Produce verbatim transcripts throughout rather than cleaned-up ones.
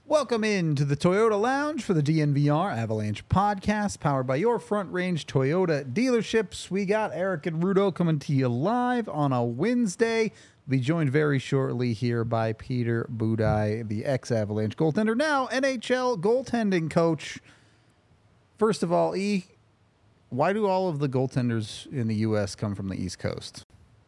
Welcome into the Toyota Lounge for the D N V R Avalanche podcast, powered by your Front Range Toyota dealerships. We got Eric and Rudo coming to you live on a Wednesday. We'll be joined very shortly here by Peter Budaj, the ex-Avalanche goaltender, now N H L goaltending coach. First of all, E, why do all of the goaltenders in the U S come from the East Coast?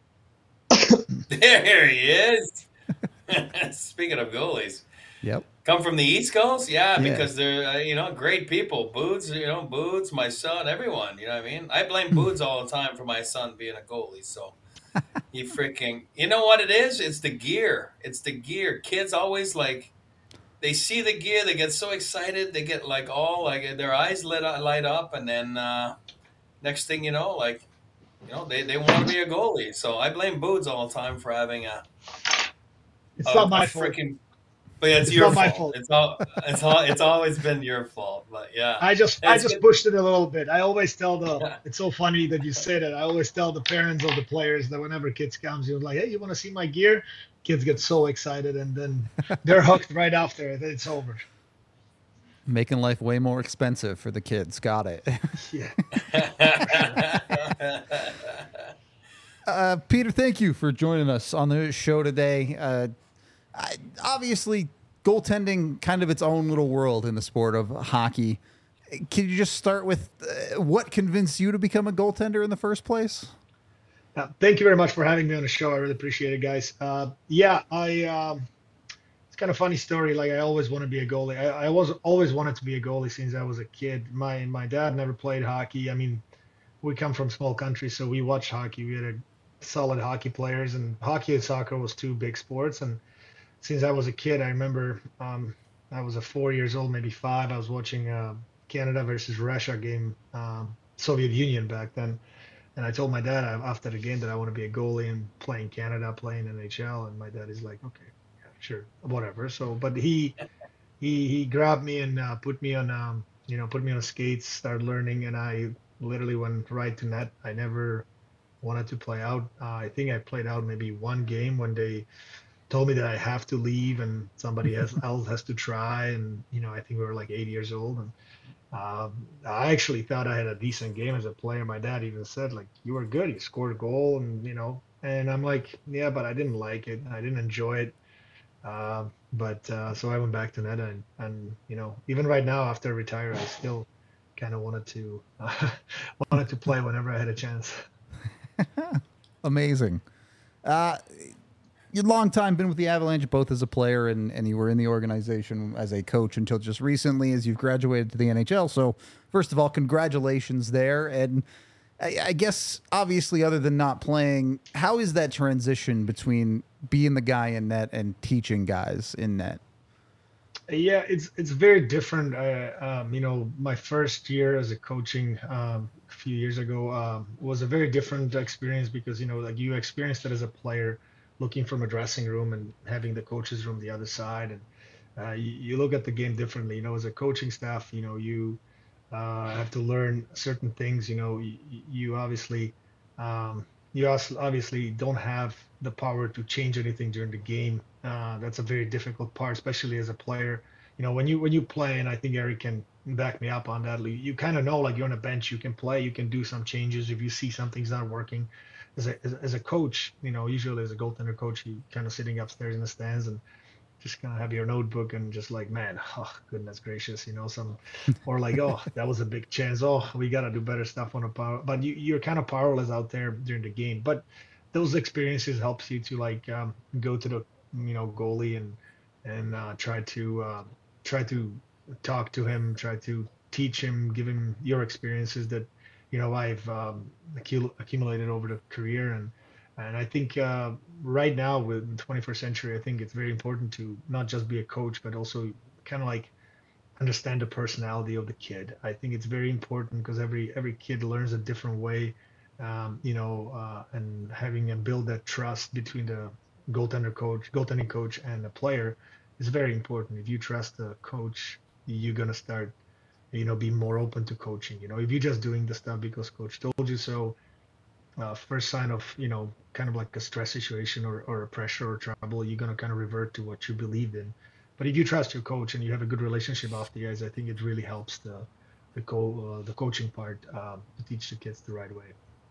There he is. Speaking of goalies. Yep. Come from the East Coast? Yeah, Yeah. because they're, uh, you know, great people. Boots, you know, Boots, my son, everyone, you know what I mean? I blame Boots all the time for my son being a goalie, so he freaking, you know what it is? It's the gear. It's the gear. Kids always, like, they see the gear, they get so excited, they get, like, all, like, their eyes lit up, light up, and then uh, next thing you know, like, you know, they, they want to be a goalie. So I blame Boots all the time for having a, It's a, not my a fault. freaking... But it's, It's your not my fault. fault. It's all. It's all. It's always been your fault. But yeah, I just And I it's just good- pushed it a little bit. I always tell the Yeah. it's so funny that you say that. I always tell the parents of the players that whenever kids comes, you're like, hey, you want to see my gear? Kids get so excited and then they're hooked right after it. It's over. Making life way more expensive for the kids. Got it. Yeah. Uh, Peter, thank you for joining us on the show today. Uh, I, obviously, goaltending kind of its own little world in the sport of hockey. Can you just start with uh, what convinced you to become a goaltender in the first place? Uh, thank you very much for having me on the show. I really appreciate it, guys. Uh, yeah, I. Um, it's kind of a funny story. Like I always want to be a goalie. I, I was always wanted to be a goalie since I was a kid. My my dad never played hockey. I mean, we come from small country, so we watched hockey. We had a solid hockey players, and hockey and soccer was two big sports. And since I was a kid, I remember um, I was a four years old, maybe five. I was watching uh, Canada versus Russia game, um, Soviet Union back then. And I told my dad after the game that I want to be a goalie and play in Canada, play in N H L. And my dad is like, okay, yeah, sure, whatever. So, but he he he grabbed me and uh, put me on, um, you know, put me on skates, started learning, and I literally went right to net. I never wanted to play out. Uh, I think I played out maybe one game when they told me that I have to leave and somebody else else has to try. And you know, I think we were like eight years old, and um, I actually thought I had a decent game as a player. My dad even said, like, you were good. You scored a goal, and you know, and I'm like, yeah, but I didn't like it. I didn't enjoy it. Uh, but uh, so I went back to net, and, and you know, even right now after I retire, I still kind of wanted to uh, wanted to play whenever I had a chance. Amazing. Uh, you've long time been with the Avalanche, both as a player and, and you were in the organization as a coach until just recently as you've graduated to the N H L. So first of all, congratulations there. And I, I guess, obviously, other than not playing, how is that transition between being the guy in net and teaching guys in net? Yeah, it's it's very different. Uh, um, you know, my first year as a coaching um, a few years ago um, was a very different experience because you know, like you experienced it as a player, looking from a dressing room and having the coaches room the other side, and uh, you, you look at the game differently. You know, as a coaching staff, you know, you uh, have to learn certain things. You know, you, you obviously um, you also obviously don't have the power to change anything during the game. Uh, that's a very difficult part, especially as a player. You know, when you when you play, and I think Eric can back me up on that. You, you kind of know, like you're on a bench, you can play, you can do some changes if you see something's not working. As a as, as a coach, you know, usually as a goaltender coach, you kind of sitting upstairs in the stands and just kind of have your notebook and just like, man, oh goodness gracious, you know, some, or like, oh, that was a big chance. Oh, we gotta do better stuff on the power. But you you're kind of powerless out there during the game. But those experiences helps you to like um, go to the you know goalie and and uh, try to uh, try to talk to him, try to teach him, give him your experiences that you know I've um, accul- accumulated over the career. And and I think uh, right now with the twenty-first century, I think it's very important to not just be a coach, but also kind of like understand the personality of the kid. I think it's very important because every every kid learns a different way, um, you know, uh, and having and build that trust between the goaltender coach, goaltending coach, and the player is very important. If you trust the coach, you're gonna start, you know, be more open to coaching. You know, if you're just doing the stuff because coach told you so, uh, first sign of, you know, kind of like a stress situation or, or a pressure or trouble, you're gonna kind of revert to what you believed in. But if you trust your coach and you have a good relationship off the ice, I think it really helps the the co uh, the coaching part um, to teach the kids the right way.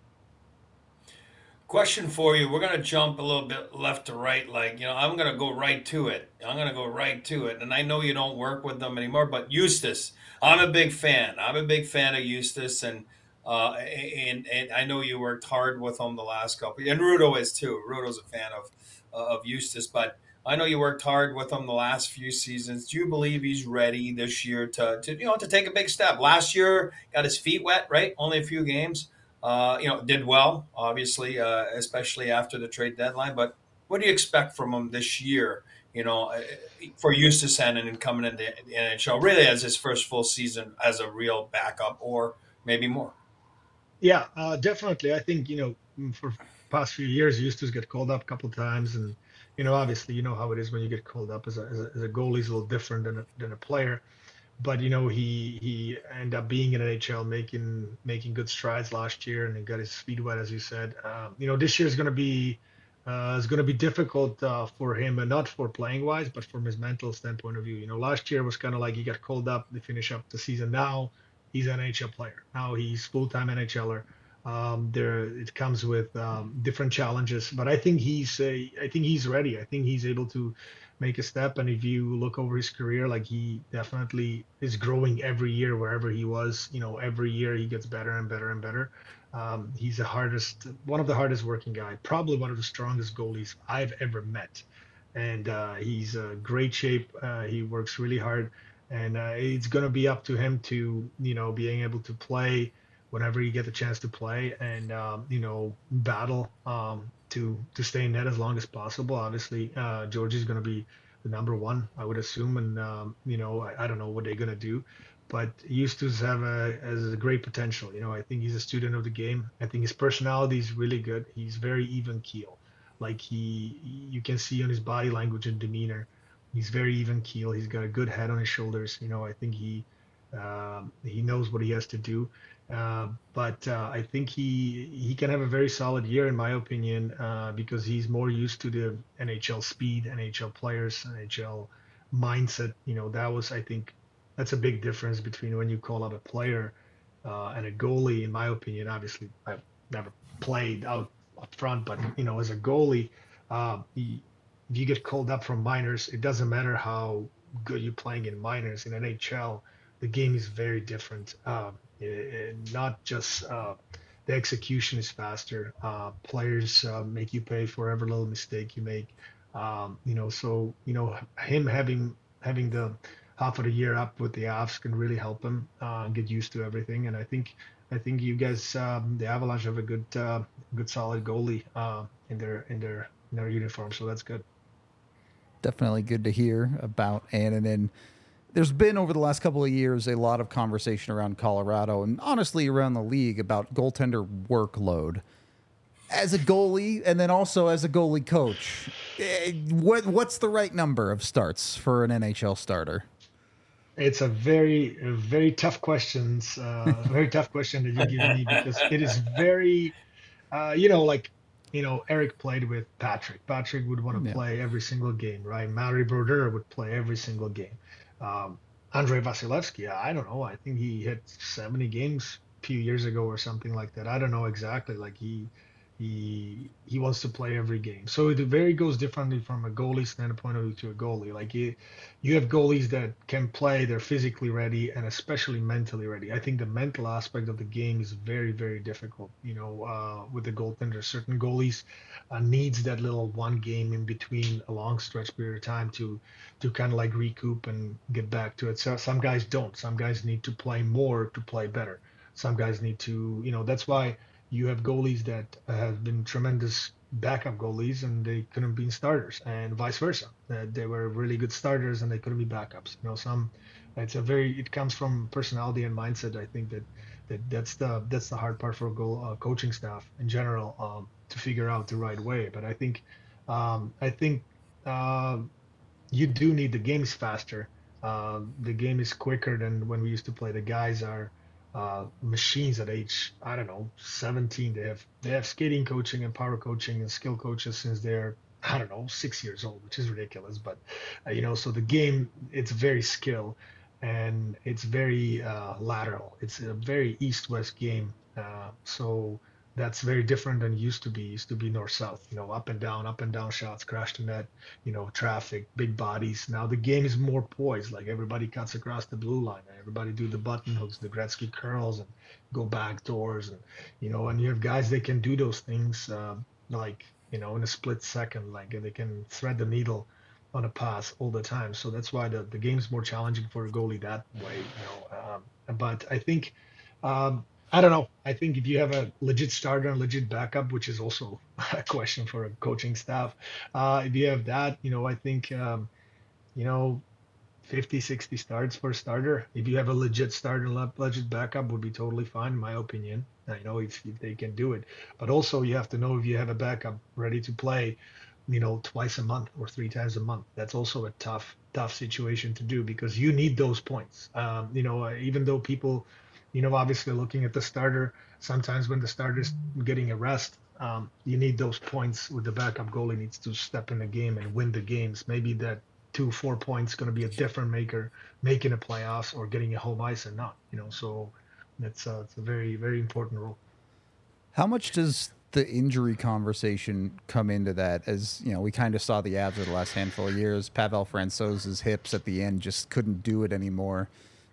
Question for you. We're going to jump a little bit left to right. Like, you know, I'm going to go right to it. I'm going to go right to it. And I know you don't work with them anymore, but Eustace, I'm a big fan. I'm a big fan of Eustace. And uh, and, and I know you worked hard with him the last couple. And Rudo is too. Rudo's a fan of, uh, of Eustace. But I know you worked hard with him the last few seasons. Do you believe he's ready this year to, to you know, to take a big step? Last year, got his feet wet, right? Only a few games. Uh, you know, did well, obviously, uh, especially after the trade deadline. But what do you expect from him this year, you know, uh, for Eustace Hennen and coming into the N H L, really as his first full season as a real backup or maybe more? Yeah, uh, definitely. I think, you know, for past few years, Eustace get called up a couple times. And, you know, obviously, you know how it is when you get called up as a, as a, as a goalie is a little different than a, than a player. But you know he he ended up being in N H L, making making good strides last year, and he got his feet wet, as you said. Um, you know this year is going to be uh, is going to be difficult uh, for him, and not for playing wise, but from his mental standpoint of view. You know, last year was kind of like he got called up to finish up the season. Now he's an N H L player. Now he's full time NHLer. Um, there it comes with um, different challenges, but I think he's a, I think he's ready. I think he's able to make a step. And if you look over his career, like he definitely is growing every year wherever he was. You know, every year he gets better and better and better. Um, he's the hardest, one of the hardest working guy, probably one of the strongest goalies I've ever met. And uh, he's a great shape. Uh, he works really hard, and uh, it's going to be up to him to, you know, being able to play whenever you get the chance to play, and um, you know, battle um, to to stay in net as long as possible. Obviously, uh, Georgie's going to be the number one, I would assume, and um, you know, I, I don't know what they're going to do, but Eustace have a has a great potential. You know, I think he's a student of the game. I think his personality is really good. He's very even keel, like he you can see on his body language and demeanor. He's very even keel. He's got a good head on his shoulders. You know, I think he um, he knows what he has to do. Uh, but uh, I think he he can have a very solid year, in my opinion, uh, because he's more used to the N H L speed, N H L players, N H L mindset. You know, that was, I think, that's a big difference between when you call up a player uh, and a goalie. In my opinion, obviously, I've never played out up front, but you know, as a goalie, uh, he, if you get called up from minors, it doesn't matter how good you're playing in minors. In N H L, the game is very different. Um, It, not just uh, the execution is faster. Uh, players uh, make you pay for every little mistake you make. Um, you know, so you know him having having the half of the year up with the Avs can really help him uh, get used to everything. And I think I think you guys, um, the Avalanche, have a good uh, good solid goalie uh, in their in their in their uniform. So that's good. Definitely good to hear about Annunen. There's been, over the last couple of years, a lot of conversation around Colorado and honestly around the league about goaltender workload. As a goalie, and then also as a goalie coach, what what's the right number of starts for an N H L starter? It's a very, a very tough questions, uh, very tough question that you give me, because it is very, uh, you know, like, you know, Eric played with Patrick. Patrick would want to Yeah. play every single game, right? Mario Brodeur would play every single game. Um, Andrei Vasilevsky, I don't know. I think he hit seventy games a few years ago or something like that. I don't know exactly. Like he, he, he wants to play every game. So it very goes differently from a goalie standpoint of view to a goalie. Like you, you have goalies that can play, they're physically ready and especially mentally ready. I think the mental aspect of the game is very, very difficult. You know, uh, with the goaltender, certain goalies uh, needs that little one game in between a long stretch period of time to to kind of like recoup and get back to it. So some guys don't. Some guys need to play more to play better. Some guys need to, you know, that's why you have goalies that have been tremendous backup goalies and they couldn't be starters, and vice versa. That they were really good starters and they couldn't be backups. You know, some it's a very it comes from personality and mindset. I think that that that's the that's the hard part for a goal uh, coaching staff in general um, to figure out the right way. But I think um, I think. Uh, you do need the game is faster. Uh, the game is quicker than when we used to play. The guys are uh, machines at age, I don't know, seventeen. They have they have skating coaching and power coaching and skill coaches since they're I don't know, six years old, which is ridiculous. But uh, you know, so the game, it's very skill, and it's very uh, lateral. It's a very east-west game. Uh, so that's very different than it used to be. It used to be north-south, you know, up and down, up and down shots, crash the net, you know, traffic, big bodies. Now the game is more poised. Like everybody cuts across the blue line. Everybody do the button hooks, the Gretzky curls, and go back doors, and you know, and you have guys that can do those things. Uh, like you know, in a split second, like they can thread the needle on a pass all the time. So that's why the, the game's more challenging for a goalie that way, you know. Um, but I think, um, I don't know. I think if you have a legit starter and legit backup, which is also a question for a coaching staff, uh, if you have that, you know, I think, um, you know, fifty, sixty starts for a starter. If you have a legit starter and legit backup, would be totally fine, in my opinion. I know if, if they can do it, but also you have to know if you have a backup ready to play, you know, twice a month or three times a month. That's also a tough, tough situation to do because you need those points. Um, you know, even though people, you know, obviously looking at the starter, sometimes when the starter's getting a rest, um, you need those points with the backup goalie needs to step in the game and win the games. Maybe that two, four points going to be a different maker, making a playoffs or getting a home ice and not, you know, so it's, uh, it's a very, very important role. How much does the injury conversation come into that? As you know, we kind of saw the Avs over the last handful of years. Pavel Francouz's hips at the end just couldn't do it anymore.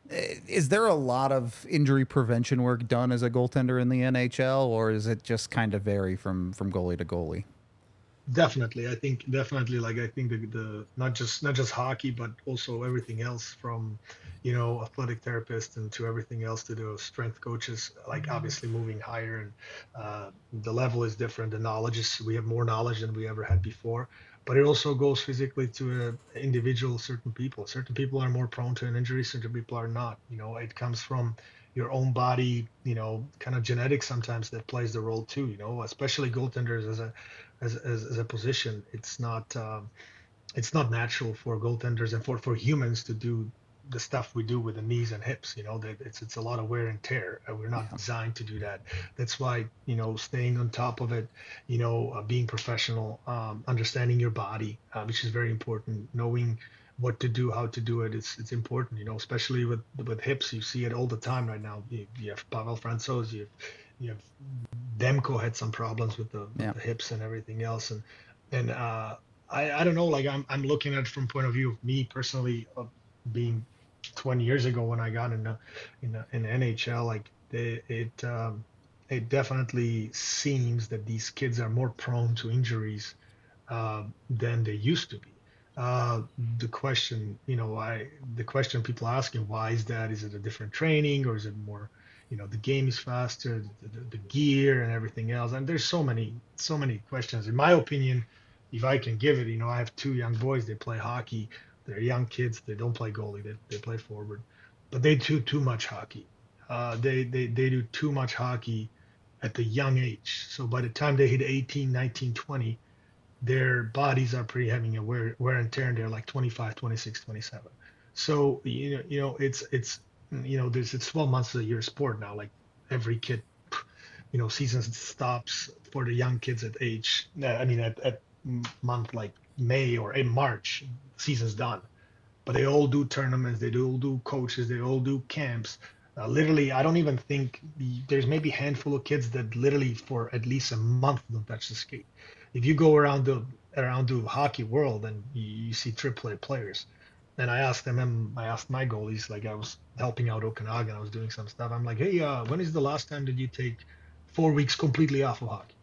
Is there a lot of injury prevention work done as a goaltender in the N H L, or is it just kind of vary from from goalie to goalie? Definitely, I think definitely like I think the, the not just not just hockey but also everything else from you know athletic therapists and to everything else to the strength coaches, like obviously moving higher and uh, the level is different, the knowledge is, we have more knowledge than we ever had before, but it also goes physically to uh, individual certain people. Certain people are more prone to an injury, certain people are not. You know, it comes from your own body, you know, kind of genetics sometimes that plays the role too, you know, especially goaltenders as a as, as, as a position. It's not um, it's not natural for goaltenders and for, for humans to do the stuff we do with the knees and hips. You know, that it's it's a lot of wear and tear. We're not yeah. designed to do that. That's why, you know, staying on top of it, you know, uh, being professional, um, understanding your body, uh, which is very important, knowing what to do, how to do it. It's it's important, you know, especially with with hips. You see it all the time right now. You, you have Pavel Francouz, you have, you have Demko had some problems with the, with yeah. the hips and everything else, and and uh, I I don't know. Like I'm I'm looking at it from point of view of me personally, uh, being twenty years ago when I got in the, in the, in the N H L. Like they, it um, it definitely seems that these kids are more prone to injuries uh, than they used to be. Uh, the question, you know, I the question people are asking, why is that? Is it a different training, or is it more, you know, the game is faster, the, the, the gear and everything else? And there's so many, so many questions. In my opinion, if I can give it, you know, I have two young boys. They play hockey. They're young kids. They don't play goalie. They they play forward, but they do too much hockey. Uh, they they they do too much hockey at the young age. So by the time they hit eighteen, nineteen, twenty. Their bodies are pretty having a wear, wear and tear, and they're like twenty-five, twenty-six, twenty-seven. So, you know, you know, it's, it's, you know, there's, it's twelve months of the year sport now. Like every kid, you know, season stops for the young kids at age, I mean, at, at month like May or in March, season's done. But they all do tournaments, they all do coaches, they all do camps. Uh, literally, I don't even think the, there's maybe a handful of kids that literally for at least a month don't touch the skate. If you go around the around the hockey world and you, you see triple A players, and I asked them, and I asked my goalies, like I was helping out Okanagan, I was doing some stuff. I'm like, hey, uh, when is the last time that you take four weeks completely off of hockey?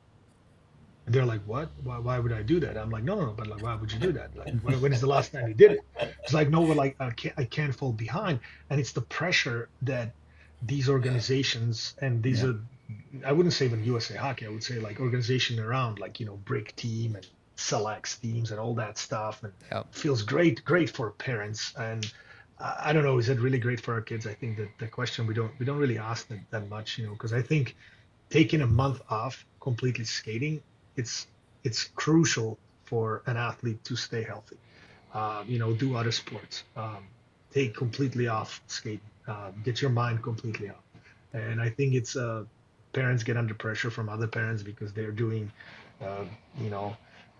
And they're like, what? Why, why would I do that? I'm like, no, no, no, but like, why would you do that? Like, when, when is the last time you did it? It's like, no, but like, I can't, I can't fall behind. And it's the pressure that these organizations and these yeah. are, I wouldn't say even U S A Hockey, I would say like organization around, like, you know, Brick Team and Selects teams and all that stuff. And yep. feels great, great for parents. And I, I don't know, is it really great for our kids? I think that the question we don't, we don't really ask that, that much, you know, because I think taking a month off completely skating, it's, it's crucial for an athlete to stay healthy, uh, you know, do other sports, um, take completely off skating, uh, get your mind completely off. And I think it's, uh, parents get under pressure from other parents because they're doing, uh, you know,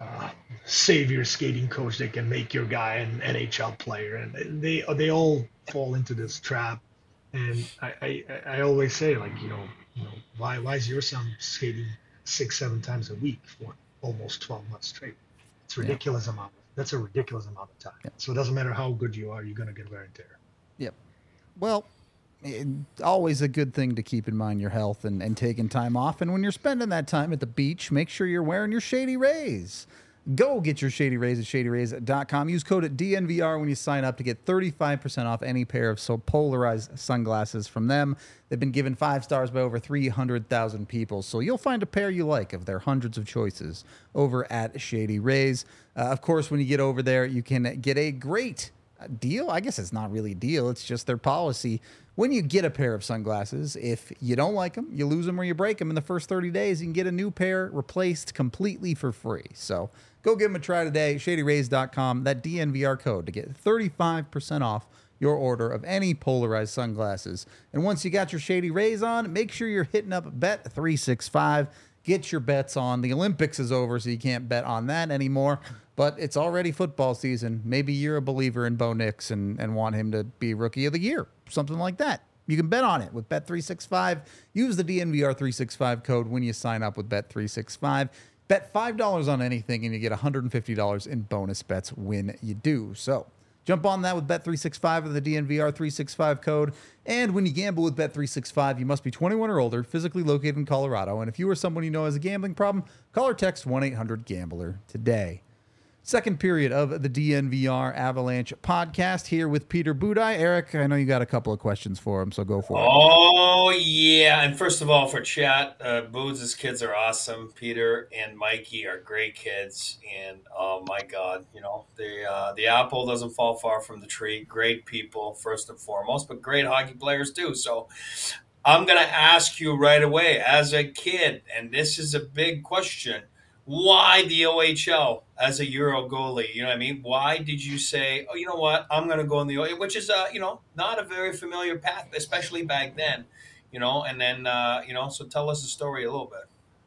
uh, savior skating coach that can make your guy an N H L player, and they they all fall into this trap. And I, I, I always say, like, you know, you know, why why is your son skating six seven times a week for almost twelve months straight? It's a ridiculous yeah. amount. That's a ridiculous amount of time. Yep. So it doesn't matter how good you are, you're gonna get wear and tear. Yep. Well, it, always a good thing to keep in mind your health and, and taking time off. And when you're spending that time at the beach, make sure you're wearing your Shady Rays. Go get your Shady Rays at shady rays dot com. Use code D N V R when you sign up to get thirty-five percent off any pair of so polarized sunglasses from them. They've been given five stars by over three hundred thousand people, so you'll find a pair you like of their hundreds of choices over at Shady Rays. Uh, of course, when you get over there, you can get a great deal. I guess it's not really a deal. It's just their policy. When you get a pair of sunglasses, if you don't like them, you lose them or you break them in the first thirty days, you can get a new pair replaced completely for free. So go give them a try today, shady rays dot com, that D N V R code to get thirty-five percent off your order of any polarized sunglasses. And once you got your Shady Rays on, make sure you're hitting up Bet three sixty-five. Get your bets on. The Olympics is over, so you can't bet on that anymore. But it's already football season. Maybe you're a believer in Bo Nix and, and want him to be Rookie of the Year, something like that. You can bet on it with Bet three sixty-five. Use the D N V R three sixty-five code when you sign up with Bet three sixty-five. Bet five dollars on anything, and you get one hundred fifty dollars in bonus bets when you do. So jump on that with Bet three sixty-five with the D N V R three sixty-five code. And when you gamble with Bet three sixty-five, you must be twenty-one or older, physically located in Colorado. And if you or someone you know has a gambling problem, call or text one eight hundred gambler today. Second period of the D N V R Avalanche podcast here with Peter Budaj. Eric, I know you got a couple of questions for him, so go for it. Oh, yeah. And first of all, for chat, uh, Boods' kids are awesome. Peter and Mikey are great kids. And, oh, my God, you know, the, uh, the apple doesn't fall far from the tree. Great people, first and foremost, but great hockey players, too. So I'm going to ask you right away, as a kid, and this is a big question, why the O H L as a Euro goalie? You know what I mean? Why did you say, oh, you know what, I'm going to go in the O H L, which is, uh, you know, not a very familiar path, especially back then, you know, and then, uh, you know, so tell us the story a little bit.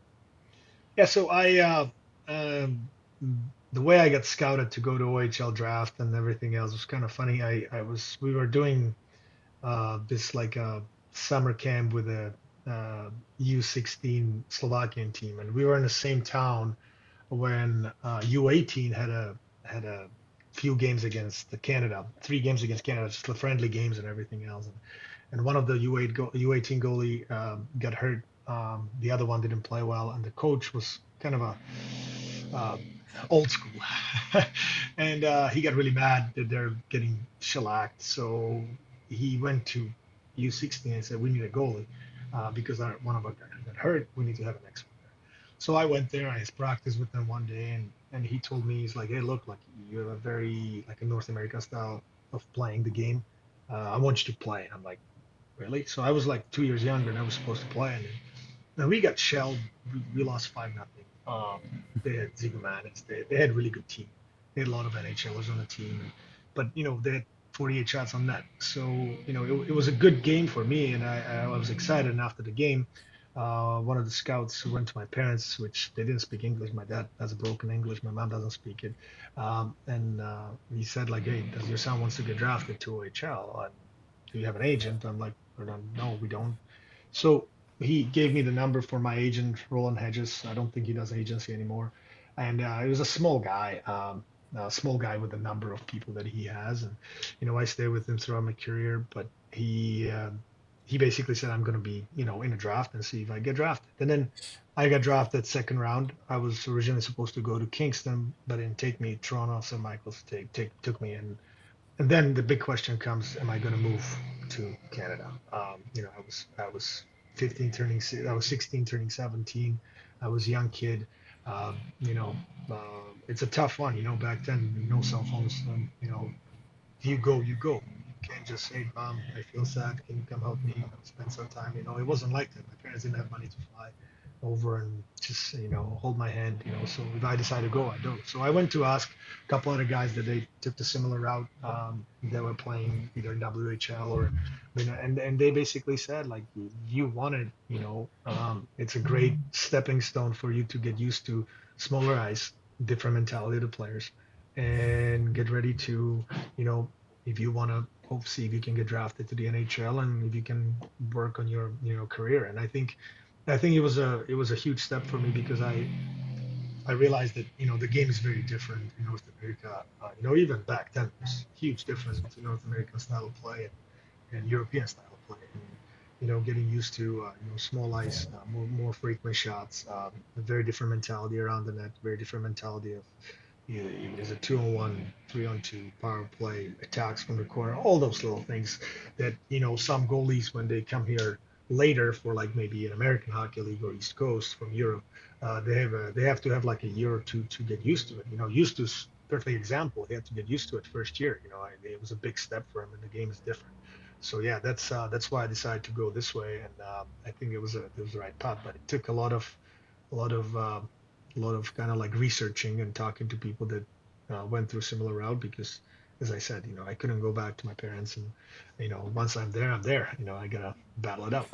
Yeah, so I, uh, um, the way I got scouted to go to O H L draft and everything else was kind of funny. I, I was, we were doing uh, this like a summer camp with a uh, U sixteen Slovakian team, and we were in the same town when uh, U eighteen had a had a few games against the Canada, three games against Canada, just the friendly games and everything else. And, and one of the U eight go, U eighteen goalie um, got hurt. Um, the other one didn't play well, and the coach was kind of a uh, old school, and uh, he got really mad that they're getting shellacked. So he went to U sixteen and said, "We need a goalie." Uh, because our, one of our guys got hurt, we need to have an expert there. So I went there, I practiced with them one day, and, and he told me, he's like, hey, look, like you have a very, like a North America style of playing the game. Uh, I want you to play. And I'm like, really? So I was like two years younger, and I was supposed to play. And, and we got shelled. We, we lost five nothing. Um, they had Zigomanis. They, they had a really good team. They had a lot of N H Lers on the team. But, you know, they had forty-eight shots on net. So, you know, it, it was a good game for me, and I, I was excited. And after the game, uh, one of the scouts who went to my parents, which they didn't speak English. My dad has a broken English. My mom doesn't speak it. Um, and uh, he said, like, hey, does your son wants to get drafted to O H L? Uh, do you have an agent? I'm like, no, we don't. So he gave me the number for my agent, Roland Hedges. I don't think he does agency anymore. And uh, he was a small guy. Um, a small guy with a number of people that he has, and you know I stayed with him throughout my career. But he uh, he basically said, I'm going to be you know in a draft and see if I get drafted. And then I got drafted second round. I was originally supposed to go to Kingston, but it didn't take me. Toronto Saint Michael's take, take took me in. And then the big question comes: am I going to move to Canada? Um, you know I was I was fifteen turning I was sixteen turning seventeen. I was a young kid. Um, you know, uh, it's a tough one. You know, back then, no cell phones. Um, you know, you go, you go. You can't just say, "Mom, I feel sad. Can you come help me? Spend some time." You know, it wasn't like that. My parents didn't have money to fly over and just, you know, hold my hand. You know, so if I decide to go, I do. So I went to ask a couple other guys that they took the similar route. Um, they were playing either in W H L or, you know, and and they basically said, like, you want it, you know, um, it's a great stepping stone for you to get used to smaller ice. different mentality of the players, and get ready to, you know, if you want to hope see if you can get drafted to the N H L and if you can work on your you know career. And I think I think it was a it was a huge step for me because I I realized that you know the game is very different in North America. Uh, you know, even back then, there's a huge difference between North American style of play and, and European style of play. And, you know, getting used to uh, you know small ice, uh, more more frequent shots, um, a very different mentality around the net, very different mentality of you know, is a two on one, three on two, power play, attacks from the corner, all those little things that you know some goalies when they come here later for like maybe an American Hockey League or East Coast from Europe. Uh, they have a, they have to have like a year or two to get used to it. You know, used to perfect example. He had to get used to it first year. You know, I, it was a big step for him, and the game is different. So yeah, that's uh, that's why I decided to go this way, and um, I think it was a it was the right path. But it took a lot of a lot of uh, a lot of kind of like researching and talking to people that uh, went through a similar route because, as I said, you know, I couldn't go back to my parents, and you know, once I'm there, I'm there. You know, I gotta battle it out.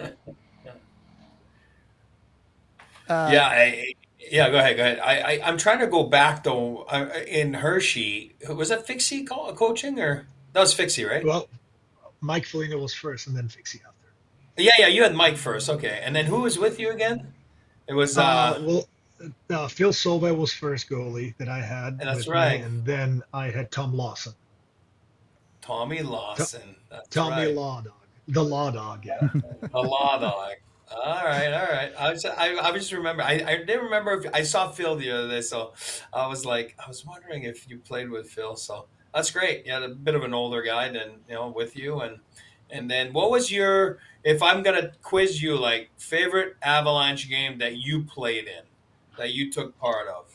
Uh, yeah, I, yeah. Go ahead, go ahead. I, I I'm trying to go back though. Uh, in Hershey, was that Fixie co- coaching or that was Fixie, right? Well, Mike Foligno was first, and then Fixie after. Yeah, yeah. You had Mike first, okay, and then who was with you again? It was uh, uh well, uh, Phil Solvay was first goalie that I had. That's right, me, and then I had Tom Lawson. Tommy Lawson. That's Tommy right. Law Dog, the Law Dog, yeah, the Law Dog. All right, all right. I was, I, I just remember. I, I didn't remember if I saw Phil the other day, so I was like, I was wondering if you played with Phil. So that's great. You had a bit of an older guy than you know with you, and and then what was your? If I'm gonna quiz you, like favorite Avalanche game that you played in, that you took part of.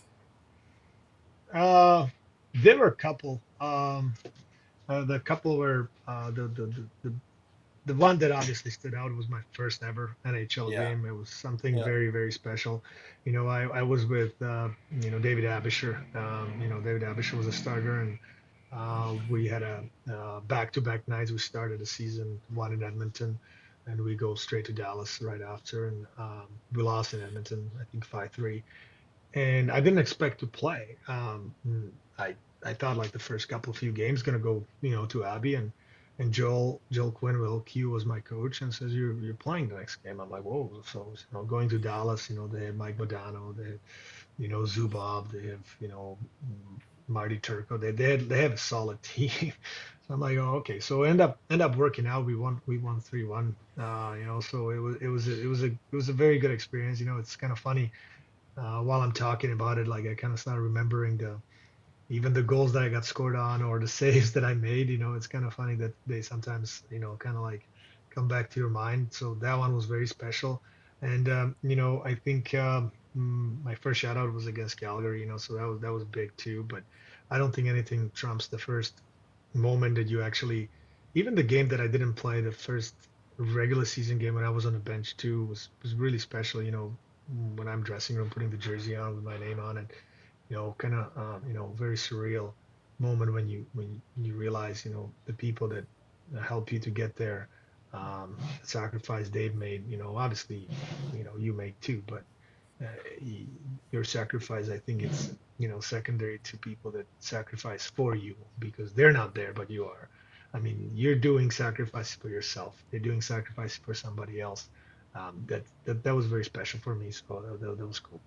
Uh, there were a couple. Um, uh, the couple were uh, the, the the the the one that obviously stood out was my first ever N H L Yeah. game. It was something Yeah. very, very special. You know, I, I was with, uh, you know, David Abisher. Um, you know, David Abisher was a starter, and uh, we had a uh, back-to-back nights. We started the season one in Edmonton, and we go straight to Dallas right after. And um, we lost in Edmonton, I think five three. And I didn't expect to play. Um, I I thought like the first couple of few games going to go, you know, to Abby, and and Joel Joel Quinville Q was my coach and says you're you're playing the next game. I'm like, whoa. So you know, going to Dallas, you know, they have Mike Modano, they have, you know, Zubov, they have, you know, Marty Turco. They they had, they have a solid team. So I'm like, oh, okay. So end up end up working out. We won we won three one. Uh, you know, so it was it was a, it was a it was a very good experience. You know, it's kind of funny. Uh, while I'm talking about it, like I kind of started remembering the even the goals that I got scored on or the saves that I made. You know, it's kind of funny that they sometimes, you know, kind of like come back to your mind. So that one was very special. And, um, you know, I think um, my first shout out was against Calgary, you know, so that was, that was big too. But I don't think anything trumps the first moment that you actually, even the game that I didn't play, the first regular season game when I was on the bench too was, was really special. You know, when I'm dressing room, putting the jersey on with my name on it, you know, kind of, um, you know, very surreal moment when you when you realize, you know, the people that help you to get there, um, the sacrifice they've made. You know, obviously, you know, you make too, but uh, your sacrifice, I think it's, you know, secondary to people that sacrifice for you because they're not there, but you are. I mean, you're doing sacrifice for yourself. They're doing sacrifice for somebody else. Um, that, that that was very special for me. So that, that, that was cool.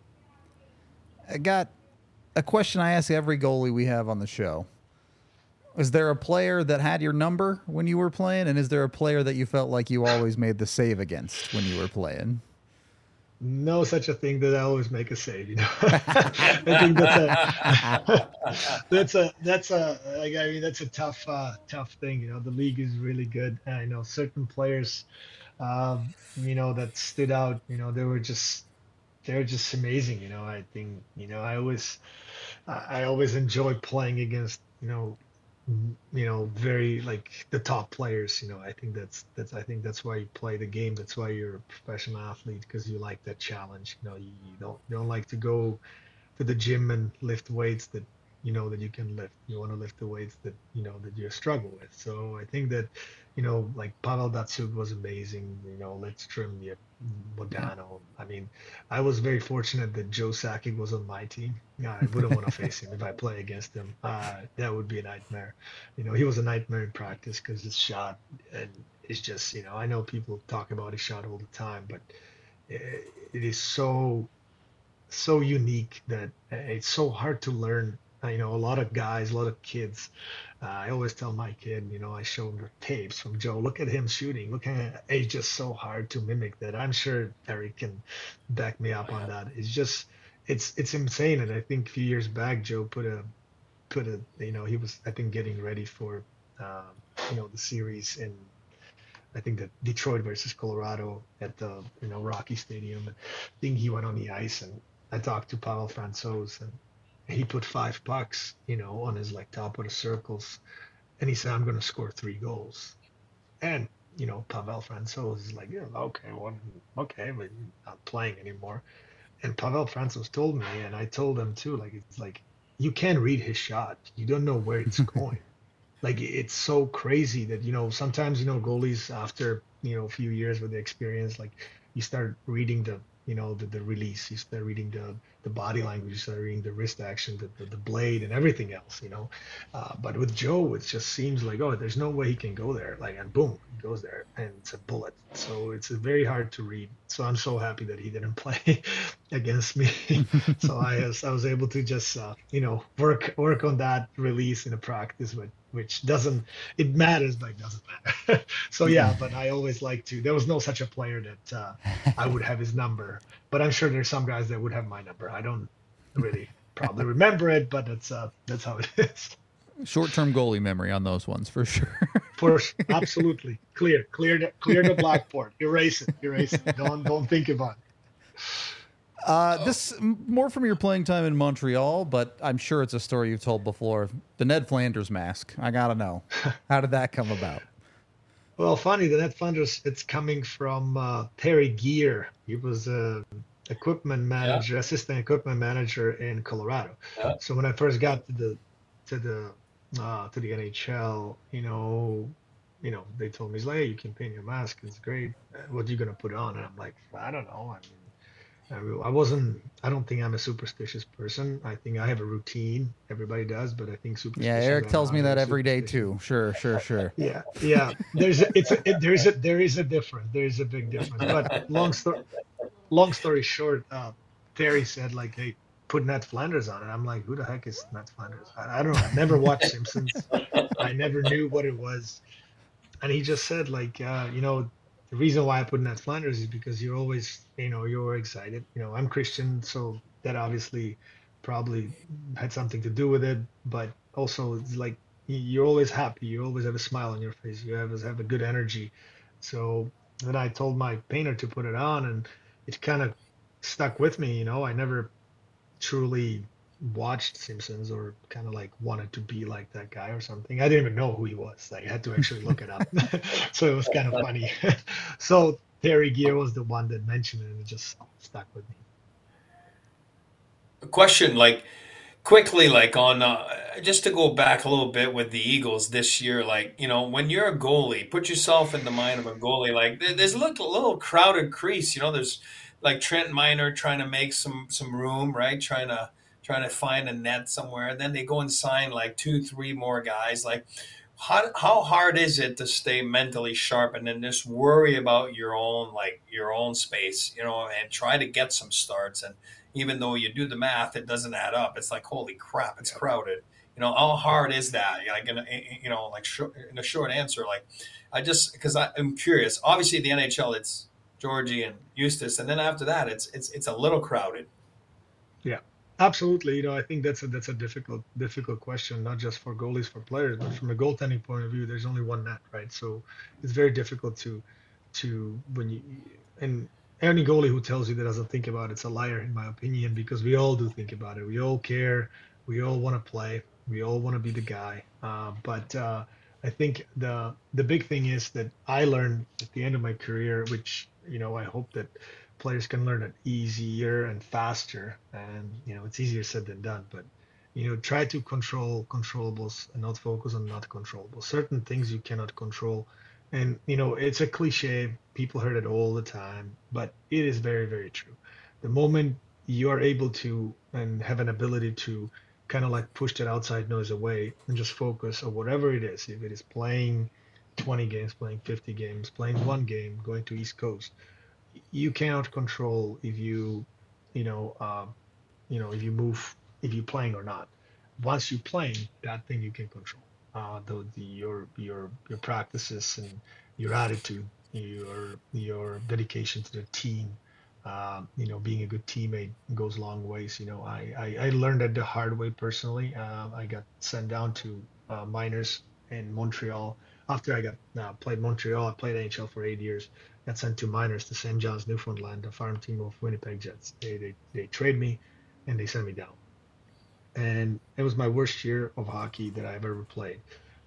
I got a question I ask every goalie we have on the show. Is there a player that had your number when you were playing? And is there a player that you felt like you always made the save against when you were playing? No such a thing that I always make a save, you know. I think that's a that's a that's a like I mean that's a tough uh, tough thing, you know. The league is really good. And I know certain players, um, you know, that stood out. You know, they were just they're just amazing. You know, I think you know I always I always enjoy playing against you know you know very like the top players. You know, I think that's that's I think that's why you play the game. That's why you're a professional athlete, because you like that challenge. You know, you, you don't you don't like to go to the gym and lift weights that you know that you can lift. You want to lift the weights that you know that you struggle with. So I think that, you know, like Pavel Datsuk was amazing. You know, Lidstrom, yeah, Modano. I mean, I was very fortunate that Joe Sakic was on my team. Yeah, I wouldn't want to face him if I play against him. Uh, that would be a nightmare. You know, he was a nightmare in practice because his shot and it's just, you know, I know people talk about his shot all the time, but it, it is so so unique that it's so hard to learn. Uh, You know, a lot of guys, a lot of kids. Uh, I always tell my kid, you know, I show him the tapes from Joe. Look at him shooting. Look at it's just so hard to mimic that. I'm sure Eric can back me up on that. It's just, it's it's insane. And I think a few years back, Joe put a put a, you know, he was I think getting ready for, um, you know, the series in I think that Detroit versus Colorado at the you know Rocky Stadium. I think he went on the ice and I talked to Pavel Francouz and he put five pucks, you know, on his like top of the circles, and he said, "I'm going to score three goals." And you know, Pavel Francouz is like, "Yeah, okay, well, okay, but you're not playing anymore." And Pavel Francouz told me, and I told him too, like it's like you can't read his shot. You don't know where it's going. Like it's so crazy that you know sometimes you know goalies after you know a few years with the experience, like you start reading the you know the, the release, you start reading the the body language, you start reading the wrist action, the, the, the blade and everything else, you know. Uh, but with Joe, it just seems like, oh, there's no way he can go there, like, and boom, he goes there and it's a bullet. So it's very hard to read. So I'm so happy that he didn't play against me. So I was I was able to just uh, you know work work on that release in a practice, but which doesn't it matters but it doesn't matter. So yeah, but I always like to there was no such a player that uh, I would have his number, but I'm sure there's some guys that would have my number. I don't really probably remember it, but that's uh that's how it is. Short-term goalie memory on those ones for sure. For absolutely clear clear the, clear the blackboard, erase it erase it, don't don't think about it. Uh, this more from your playing time in Montreal, but I'm sure it's a story you've told before. The Ned Flanders mask. I gotta know, how did that come about? Well, funny, the Ned Flanders, it's coming from uh, Terry Gear. He was a equipment manager, Yeah. assistant equipment manager in Colorado. Yeah. So when I first got to the to the uh, to the N H L, you know, you know, they told me, like, hey, you can paint your mask. It's great. Uh, What are you gonna put on? And I'm like, I don't know. I mean, I re- I wasn't. I don't think I'm a superstitious person. I think I have a routine. Everybody does, but I think Yeah, superstitions Eric are tells me not that very every day superstitious. too. Sure, sure, sure. Yeah, yeah. There's a, it's a, it, there is a there is a difference. There is a big difference. But long story long story short, uh, Terry said like, "Hey, put Ned Flanders on," and I'm like, "Who the heck is Ned Flanders?" I, I don't know. I never watched Simpsons. I never knew what it was. And he just said like, uh, you know, the reason why I put Ned Flanders is because you're always, you know, you're excited. You know, I'm Christian, so that obviously probably had something to do with it. But also, it's like y- you're always happy. You always have a smile on your face. You always have a good energy. So then I told my painter to put it on, and it kind of stuck with me. You know, I never truly watched Simpsons or kind of like wanted to be like that guy or something. I didn't even know who he was. Like I had to actually look it up. So it was kind of funny. So Terry Gear was the one that mentioned it and it just stuck with me. A question, like quickly, like on uh, just to go back a little bit with the Eagles this year, like you know, when you're a goalie, put yourself in the mind of a goalie. Like there, there's a little, little crowded crease. You know, there's like Trent Miner trying to make some some room, right? Trying to trying to find a net somewhere. And then they go and sign like two, three more guys. Like how how hard is it to stay mentally sharp and then just worry about your own like your own space, you know, and try to get some starts and even though you do the math, it doesn't add up. It's like, holy crap, it's crowded. You know, how hard is that? Like, in a, you know, like short, in a short answer, like, I just because I'm curious. Obviously, the N H L, it's Georgie and Eustace, and then after that, it's it's it's a little crowded. Yeah, absolutely. You know, I think that's a that's a difficult difficult question, not just for goalies, for players, but from a goaltending point of view, there's only one net, right? So it's very difficult to to when you and any goalie who tells you that doesn't think about it's a liar, in my opinion, because we all do think about it. We all care. We all want to play. We all want to be the guy. Uh, but uh, I think the the big thing is that I learned at the end of my career, which you know I hope that players can learn it easier and faster. And you know it's easier said than done, but You know, try to control controllables and not focus on not controllables. Certain things you cannot control. And, you know, it's a cliche. People heard it all the time, but it is very, very true. The moment you are able to and have an ability to kind of like push that outside noise away and just focus on whatever it is, if it is playing twenty games, playing fifty games, playing one game, going to East Coast, you cannot control if you, you know, uh, you know, if you move, if you're playing or not. Once you're playing, that thing you can control. Uh, the, the your your your practices and your attitude, your your dedication to the team. Uh, you know, being a good teammate goes long ways. You know, I I, I learned that the hard way personally. Uh, I got sent down to uh, minors in Montreal after I got uh, played Montreal. I played N H L for eight years. Got sent to minors to Saint John's, Newfoundland, the farm team of Winnipeg Jets. They they they trade me, and they sent me down. And it was my worst year of hockey that I've ever played.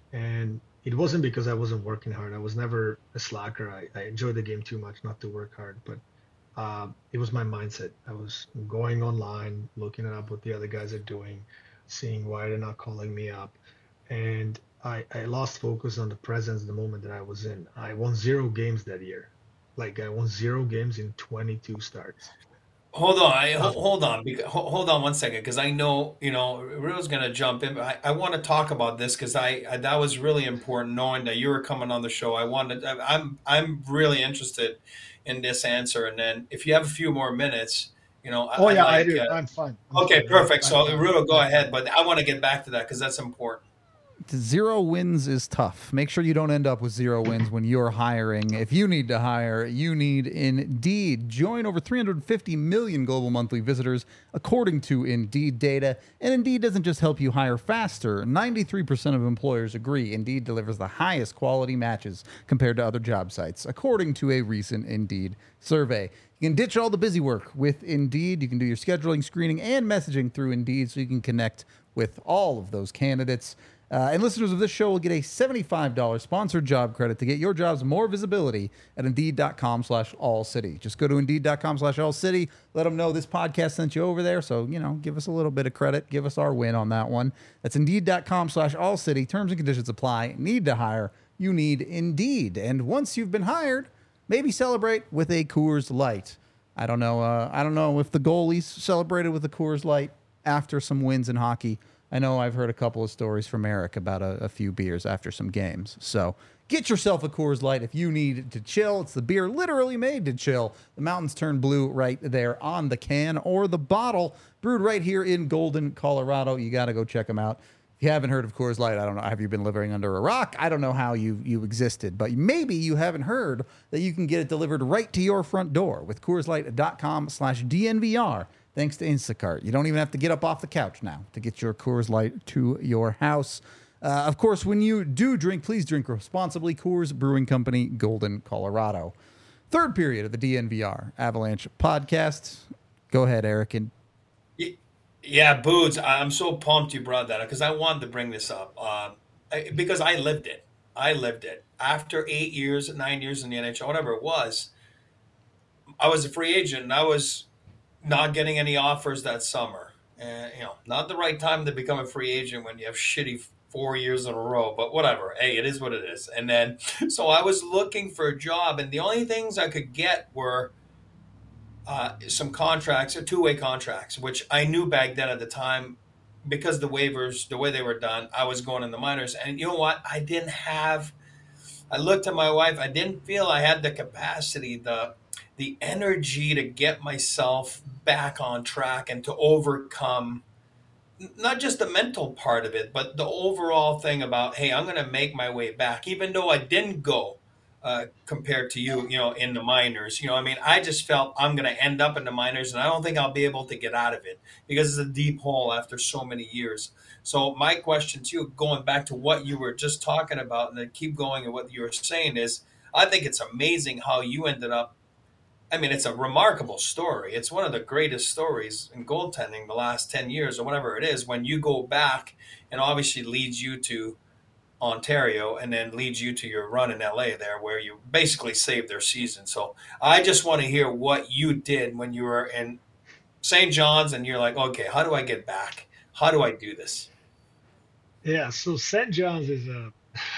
And it wasn't because I wasn't working hard. I was never a slacker. I, I enjoyed the game too much not to work hard. But uh, it was my mindset. I was going online, looking up what the other guys are doing, seeing why they're not calling me up. And I, I lost focus on the presence, the moment that I was in. I won zero games that year. Like I won zero games in twenty-two starts. Hold on, I, ho- hold on, because, hold on one second, because I know you know Rio's going to jump in, but I, I want to talk about this because I, I that was really important knowing that you were coming on the show. I wanted, I, I'm I'm really interested in this answer, and then if you have a few more minutes, you know, I, Oh I'd yeah, I like. do. Uh, I'm fine. I'm okay, fine. perfect. I, So I, Rio, go I, ahead, but I want to get back to that because that's important. Zero wins is tough. Make sure you don't end up with zero wins when you're hiring. If you need to hire, you need Indeed. Join over three hundred fifty million global monthly visitors, according to Indeed data. And Indeed doesn't just help you hire faster. ninety-three percent of employers agree Indeed delivers the highest quality matches compared to other job sites, according to a recent Indeed survey. You can ditch all the busy work with Indeed. You can do your scheduling, screening, and messaging through Indeed so you can connect with all of those candidates. Uh, and listeners of this show will get a seventy-five dollars sponsored job credit to get your jobs more visibility at Indeed.com slash All City. Just go to Indeed.com slash All City. Let them know this podcast sent you over there. So, you know, give us a little bit of credit. Give us our win on that one. That's Indeed.com slash All City. Terms and conditions apply. Need to hire. You need Indeed. And once you've been hired, maybe celebrate with a Coors Light. I don't know. Uh, I don't know if the goalies celebrated with a Coors Light after some wins in hockey. I know I've heard a couple of stories from Eric about a, a few beers after some games. So get yourself a Coors Light if you need to chill. It's the beer literally made to chill. The mountains turn blue right there on the can or the bottle. Brewed right here in Golden, Colorado. You got to go check them out. If you haven't heard of Coors Light, I don't know. Have you been living under a rock? I don't know how you, you existed, but maybe you haven't heard that you can get it delivered right to your front door with CoorsLight.com slash DNVR. Thanks to Instacart. You don't even have to get up off the couch now to get your Coors Light to your house. Uh, of course, when you do drink, please drink responsibly. Coors Brewing Company, Golden, Colorado. Third period of the D N V R Avalanche podcast. Go ahead, Eric. And yeah, Boots, I'm so pumped you brought that up because I wanted to bring this up uh, I, because I lived it. I lived it. After eight years, nine years in the N H L, whatever it was, I was a free agent and I was not getting any offers that summer. And, you know, not the right time to become a free agent when you have shitty four years in a row, but whatever. Hey, it is what it is. And then, so I was looking for a job, and the only things I could get were uh, some contracts, or two-way contracts, which I knew back then at the time, because the waivers, the way they were done, I was going in the minors. And you know what? I didn't have, I looked at my wife, I didn't feel I had the capacity, the the energy to get myself back on track and to overcome not just the mental part of it, but the overall thing about, hey, I'm going to make my way back, even though I didn't go uh, compared to you, you know, in the minors. You know, I mean, I just felt I'm going to end up in the minors, and I don't think I'll be able to get out of it because it's a deep hole after so many years. So my question to you, going back to what you were just talking about, and then keep going and what you were saying is, I think it's amazing how you ended up. I mean, it's a remarkable story. It's one of the greatest stories in goaltending the last ten years or whatever it is, when you go back and obviously leads you to Ontario and then leads you to your run in L A there, where you basically saved their season. So I just want to hear what you did when you were in Saint John's and you're like, okay, how do I get back? how do I do this? Yeah, so Saint John's is a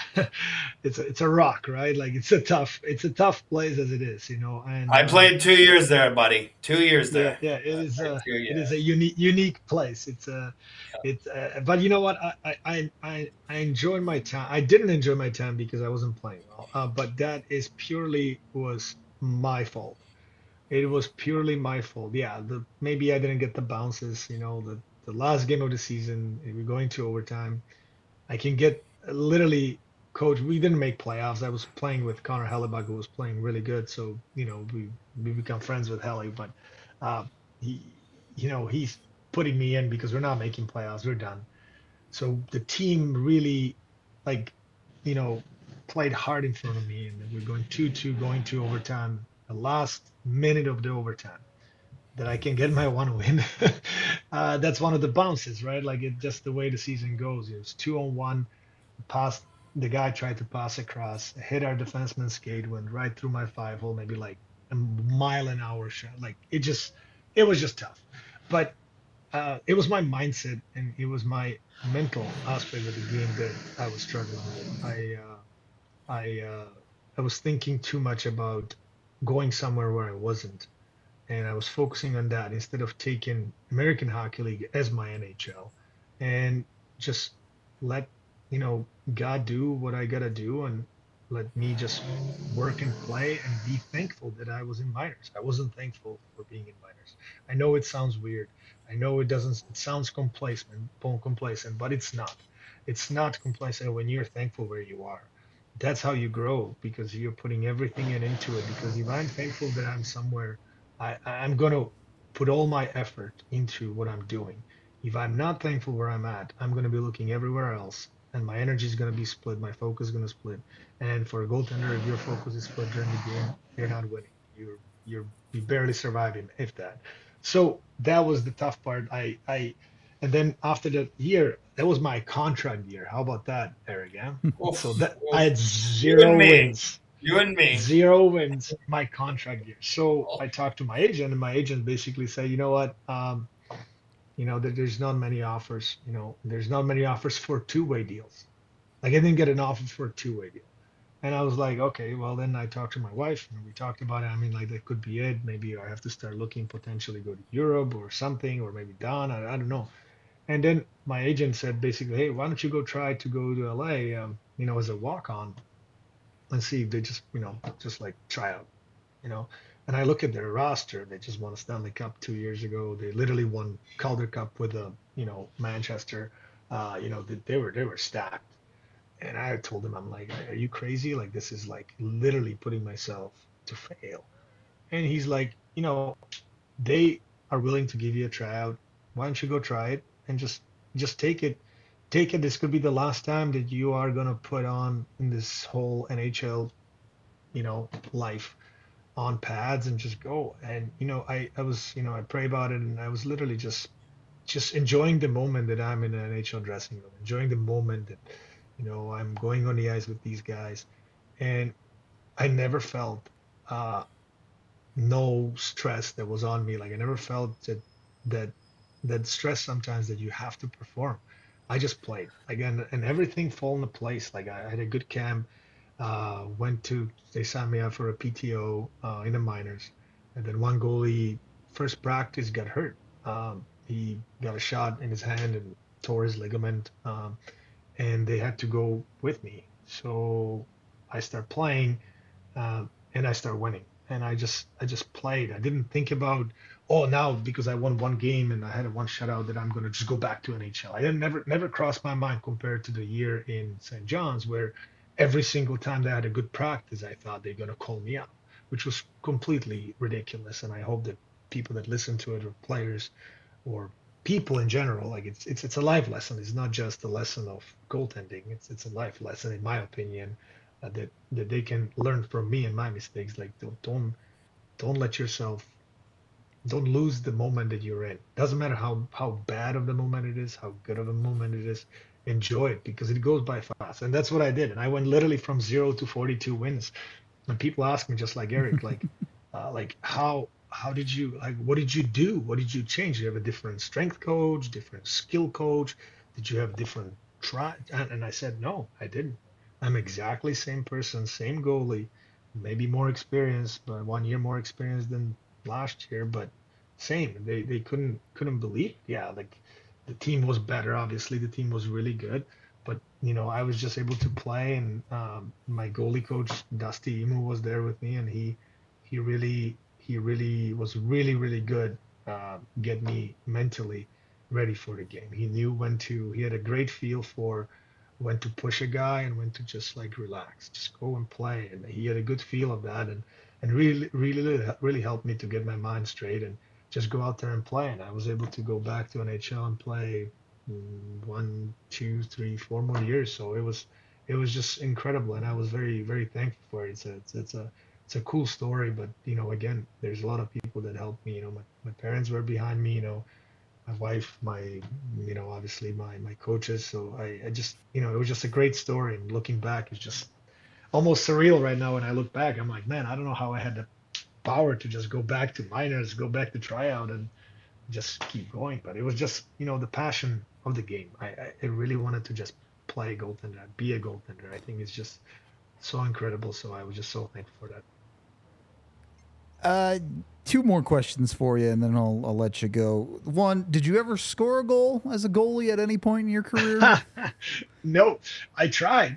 it's a it's a rock, right? Like it's a tough it's a tough place as it is, you know. And I um, played two years there, buddy. Two years yeah, there. yeah, it I is played a two, it is yeah. a unique unique place. It's a it's uh, but you know what? I, I I I I enjoyed my time. I didn't enjoy my time because I wasn't playing well. Uh, but that is purely was my fault. It was purely my fault. Yeah, the maybe I didn't get the bounces, you know, the the last game of the season, we're going to overtime. I can get literally, coach. We didn't make playoffs. I was playing with Connor Hellebuck, who was playing really good. So you know, we we become friends with Helly, but uh, he, you know, he's putting me in because we're not making playoffs. We're done. So the team really, like, you know, played hard in front of me, and then we're going two two, going to overtime. The last minute of the overtime that I can get my one win. uh, that's one of the bounces, right? Like it just the way the season goes. It was two on one, pass. The guy tried to pass across, hit our defenseman's skate, went right through my five hole, maybe like a mile an hour shot. Like it just, it was just tough. But uh, it was my mindset and it was my mental aspect of the game that I was struggling with. I, uh, I, uh, I was thinking too much about going somewhere where I wasn't, and I was focusing on that instead of taking American Hockey League as my N H L, and just let you know God do what I gotta do, and let me just work and play and be thankful that I was in minors. I wasn't thankful for being in minors. I know it sounds weird. I know it doesn't. It sounds complacent, complacent, but it's not. It's not complacent when you're thankful where you are. That's how you grow because you're putting everything in into it. Because if I'm thankful that I'm somewhere, I, I'm going to put all my effort into what I'm doing. If I'm not thankful where I'm at, I'm going to be looking everywhere else, and my energy is going to be split. My focus is going to split. And for a goaltender, if your focus is split during the game, you're not winning. You're you're you barely surviving, if that. So that was the tough part. I I and then after that year, that was my contract year. How about that, Eric? Yeah. Oof, So that oof. I had You zero and me. wins. You and me. Zero wins my contract year. So Oh, I talked to my agent, and my agent basically said, you know what, um, you know, there, there's not many offers. You know, there's not many offers for two-way deals. Like I didn't get an offer for a two-way deal. And I was like, okay, well then I talked to my wife and we talked about it. I mean, like that could be it. Maybe I have to start looking potentially go to Europe or something, or maybe down. I, I don't know. And then my agent said basically, hey, why don't you go try to go to L A, um, you know, as a walk-on and see if they just, you know, just like try out, you know. And I look at their roster. They just won a Stanley Cup two years ago. They literally won Calder Cup with a, you know, Manchester. Uh, you know, they, they were they were stacked. And I told him, I'm like, are you crazy? Like this is like literally putting myself to fail. And he's like, you know, they are willing to give you a tryout. Why don't you go try it and just just take it take it. This could be the last time that you are gonna put on in this whole N H L, you know, life on pads and just go. And you know, I I was, you know, I pray about it, and I was literally just just enjoying the moment that I'm in an N H L dressing room, enjoying the moment that, you know, I'm going on the ice with these guys, and I never felt uh, no stress that was on me. Like I never felt that that that stress sometimes that you have to perform. I just played again, and everything fall into place. Like I had a good camp. Uh, went to they signed me up for a P T O uh, in the minors, and then one goalie first practice got hurt. Um, he got a shot in his hand and tore his ligament, um, and they had to go with me. So I start playing, um, and I start winning. And I just I just played. I didn't think about, oh, now because I won one game and I had a one shutout that I'm gonna just go back to N H L. I didn't never never crossed my mind compared to the year in Saint John's where every single time they had a good practice, I thought they're gonna call me up, which was completely ridiculous. And I hope that people that listen to it, or players, or people in general, like it's it's it's a life lesson. It's not just a lesson of goaltending. It's it's a life lesson, in my opinion, uh, that that they can learn from me and my mistakes. Like don't don't don't let yourself don't lose the moment that you're in. Doesn't matter how how bad of the moment it is, how good of a moment it is. Enjoy it because it goes by fast, and that's what I did. And I went literally from zero to forty-two wins. And people ask me, just like Eric, like uh, like how how did you like? What did you do? What did you change? Do you have a different strength coach, different skill coach? Did you have different try? And, and I said, no, I didn't. I'm exactly same person, same goalie, maybe more experience, but one year more experience than last year, but same. They they couldn't couldn't believe. Yeah, like the team was better. Obviously, the team was really good, but you know, I was just able to play, and um, my goalie coach Dusty Emu was there with me, and he he really he really was really really good. Uh, get me mentally ready for the game. He knew when to. He had a great feel for when to push a guy and when to just like relax, just go and play. And he had a good feel of that, and and really really really helped me to get my mind straight and just go out there and play. And I was able to go back to N H L and play mm, one, two, three, four more years. So it was it was just incredible, and I was very very thankful for it. It's a it's, it's a it's a cool story, but you know, again, there's a lot of people that helped me. You know, my, my parents were behind me. You know, my wife, my, you know, obviously my my coaches. So I, I just, you know, it was just a great story. And looking back, it's just almost surreal right now. When I look back, I'm like, man, I don't know how I had the power to just go back to minors, go back to tryout, and just keep going. But it was just, you know, the passion of the game. I, I, I really wanted to just play goaltender, be a goaltender. I think it's just so incredible. So I was just so thankful for that. Uh, two more questions for you, and then I'll I'll let you go. One, did you ever score a goal as a goalie at any point in your career? No, I tried.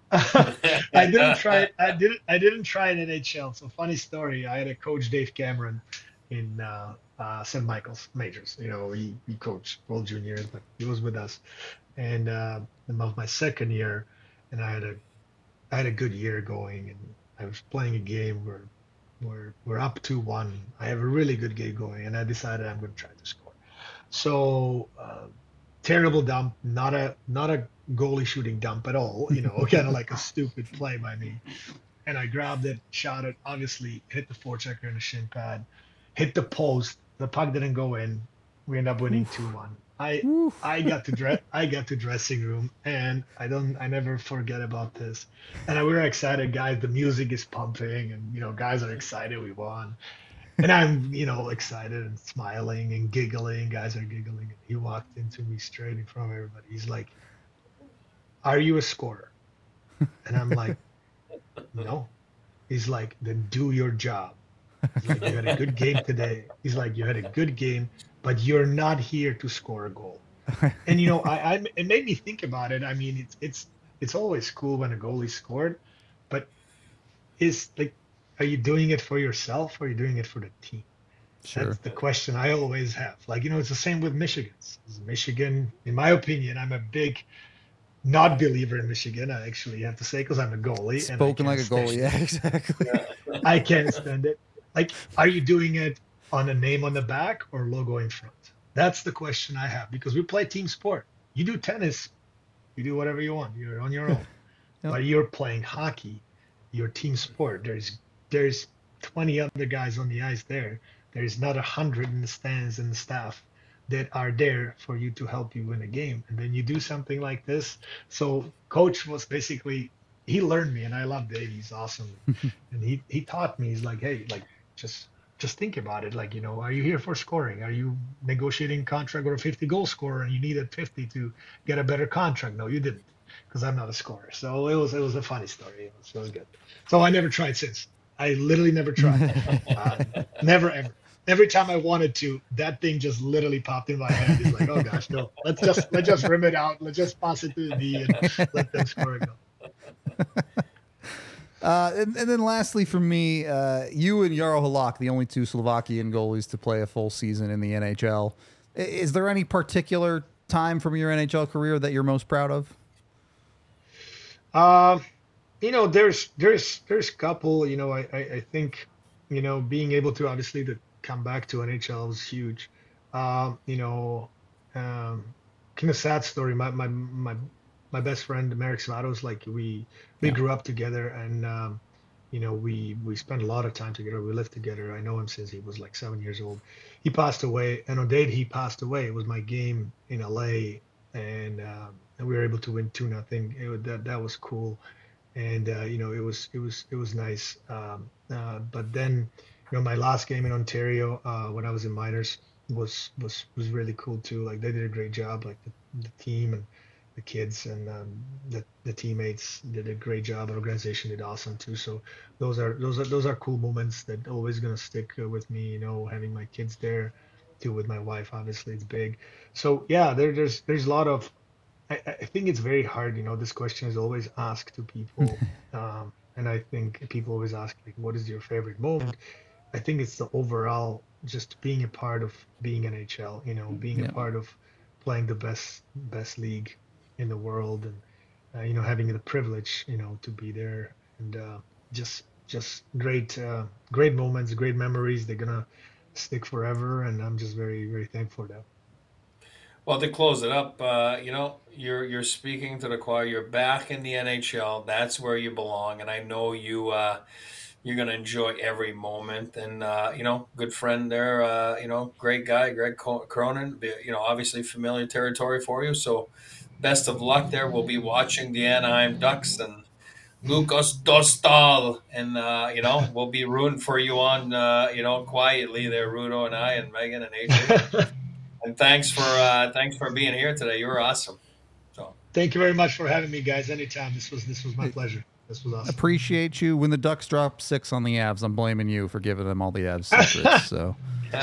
I didn't try it. I didn't. I didn't try it in N H L. So funny story. I had a coach, Dave Cameron, in uh, uh, Saint Michael's Majors. You know, he he coached World Juniors, but he was with us. And uh, of my second year, and I had a I had a good year going, and I was playing a game where. We're, we're up two one. I have a really good game going, and I decided I'm going to try to score. So uh, terrible dump, not a not a goalie shooting dump at all. You know, kind of like a stupid play by me. And I grabbed it, shot it. Obviously, hit the forechecker in the shin pad, hit the post. The puck didn't go in. We end up winning two one. I Oof. I got to dress. I got to dressing room, and I don't. I never forget about this. And we were excited, guys. The music is pumping, and you know, guys are excited. We won, and I'm, you know, excited and smiling and giggling. Guys are giggling. And he walked into me straight in front of everybody. He's like, "Are you a scorer?" And I'm like, "No." He's like, "Then do your job." He's like, "You had a good game today." He's like, "You had a good game. But you're not here to score a goal." And you know, I, I it made me think about it. I mean, it's it's it's always cool when a goalie scored, but is like, are you doing it for yourself or are you doing it for the team? Sure. That's the question I always have. Like, you know, it's the same with Michigan. Michigan, in my opinion, I'm a big not believer in Michigan. I actually have to say, because I'm a goalie. Spoken like a goalie, yeah, exactly. I can't stand it. Like, are you doing it on a name on the back or logo in front? That's the question I have, because we play team sport. You do tennis, you do whatever you want. You're on your own. Yep. But you're playing hockey, your team sport. There's there's twenty other guys on the ice there. There's not a hundred in the stands and the staff that are there for you to help you win a game. And then you do something like this. So coach was basically, he learned me, and I love Dave. He's awesome. And he, he taught me, he's like, hey, like, just Just think about it. Like, you know, are you here for scoring? Are you negotiating contract with a fifty goal scorer and you needed fifty to get a better contract? No, you didn't, because I'm not a scorer. So it was it was a funny story. It was, it was good. So I never tried since. I literally never tried. uh, never ever. Every time I wanted to, that thing just literally popped in my head. It's like, oh gosh, no. Let's just let's just rim it out. Let's just pass it to the D and let them score a goal. Uh, and, and then lastly for me, uh, you and Jaro Halak, the only two Slovakian goalies to play a full season in the N H L. Is there any particular time from your N H L career that you're most proud of? Um, you know, there's there's there's a couple. You know, I, I I think, you know, being able to obviously to come back to N H L was huge. Um, you know, um, kind of sad story. My my my. My best friend, Marek Svatos, like we we yeah. grew up together, and um, you know, we we spent a lot of time together. We lived together. I know him since he was like seven years old. He passed away, and on the day he passed away, it was my game in L A, and um, and we were able to win two nothing. That that was cool, and uh, you know, it was it was it was nice. Um, uh, but then, you know, my last game in Ontario uh, when I was in minors was was was really cool too. Like they did a great job, like the, the team and the kids and um, the the teammates did a great job. The organization did awesome too. So those are those are those are cool moments that always gonna stick uh, with me. You know, having my kids there, too with my wife. Obviously, it's big. So yeah, there, there's there's a lot of. I, I think it's very hard. You know, this question is always asked to people, um, and I think people always ask like, "What is your favorite moment?" I think it's the overall just being a part of being N H L. You know, being a Yeah. part of playing the best best league in the world, and uh, you know, having the privilege, you know, to be there, and uh, just just great uh, great moments, great memories. They're gonna stick forever, and I'm just very very thankful for that. Well, to close it up, uh, you know, you're you're speaking to the choir. You're back in the N H L. That's where you belong, and I know you. Uh, you're gonna enjoy every moment. And uh, you know, good friend there. Uh, you know, great guy, Greg Cronin. You know, obviously familiar territory for you. So, best of luck there. We'll be watching the Anaheim Ducks and Lucas Dostal, and uh, you know, we'll be rooting for you on. Uh, you know, quietly there, Rudo and I, and Megan and Adrian. And, and thanks for uh, thanks for being here today. You were awesome. So Thank you very much for having me, guys. Anytime. This was this was my pleasure. This was awesome. Appreciate you. When the Ducks drop six on the Avs, I'm blaming you for giving them all the Avs secrets. So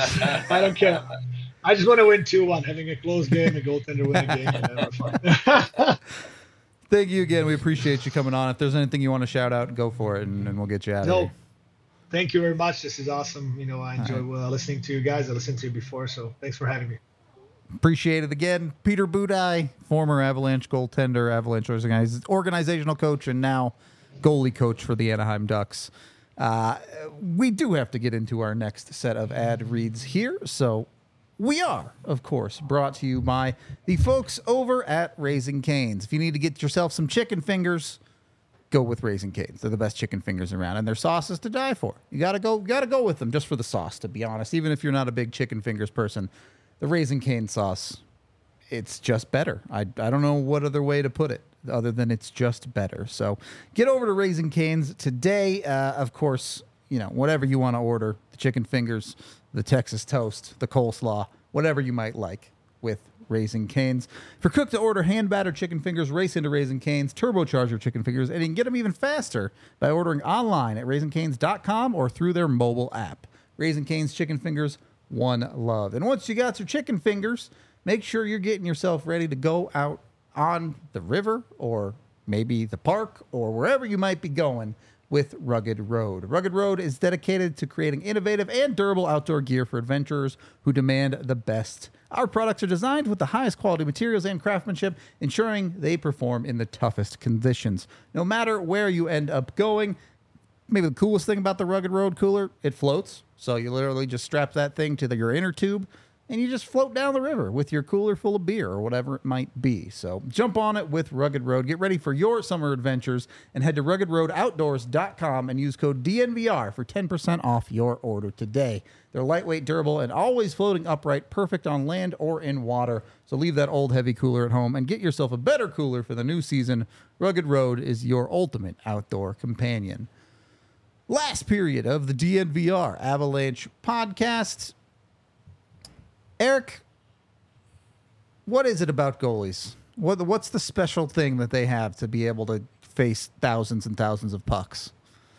I don't care. I just want to win two one. Having a close game, a goaltender win a game, and we're fine. thank you again. We appreciate you coming on. If there's anything you want to shout out, go for it, and, and we'll get you out of No, here. thank you very much. This is awesome. You know, I enjoy uh, listening to you guys. I listened to you before, so thanks for having me. Appreciate it again. Peter Budaj, former Avalanche goaltender, Avalanche organiz- organizational coach, and now goalie coach for the Anaheim Ducks. Uh, we do have to get into our next set of ad reads here, so we are, of course, brought to you by the folks over at Raising Cane's. If you need to get yourself some chicken fingers, go with Raising Cane's. They're the best chicken fingers around, and their sauce is to die for. You gotta go, gotta go with them just for the sauce. To be honest, even if you're not a big chicken fingers person, the Raising Cane sauce, it's just better. I I don't know what other way to put it other than it's just better. So get over to Raising Cane's today. Uh, of course, you know, whatever you want to order, the chicken fingers, the Texas toast, the coleslaw, whatever you might like with Raising Cane's. For cook to order hand battered chicken fingers, race into Raising Cane's, turbocharge your chicken fingers, and you can get them even faster by ordering online at raising canes dot com or through their mobile app. Raising Cane's chicken fingers, one love. And once you got your chicken fingers, make sure you're getting yourself ready to go out on the river or maybe the park or wherever you might be going with Rugged Road. Rugged Road is dedicated to creating innovative and durable outdoor gear for adventurers who demand the best. Our products are designed with the highest quality materials and craftsmanship, ensuring they perform in the toughest conditions. No matter where you end up going, maybe the coolest thing about the Rugged Road cooler, it floats. So you literally just strap that thing to the, your inner tube, and you just float down the river with your cooler full of beer or whatever it might be. So jump on it with Rugged Road. Get ready for your summer adventures and head to rugged road outdoors dot com and use code D N V R for ten percent off your order today. They're lightweight, durable, and always floating upright, perfect on land or in water. So leave that old heavy cooler at home and get yourself a better cooler for the new season. Rugged Road is your ultimate outdoor companion. Last period of the D N V R Avalanche podcast. Eric, what is it about goalies? What what's the special thing that they have to be able to face thousands and thousands of pucks?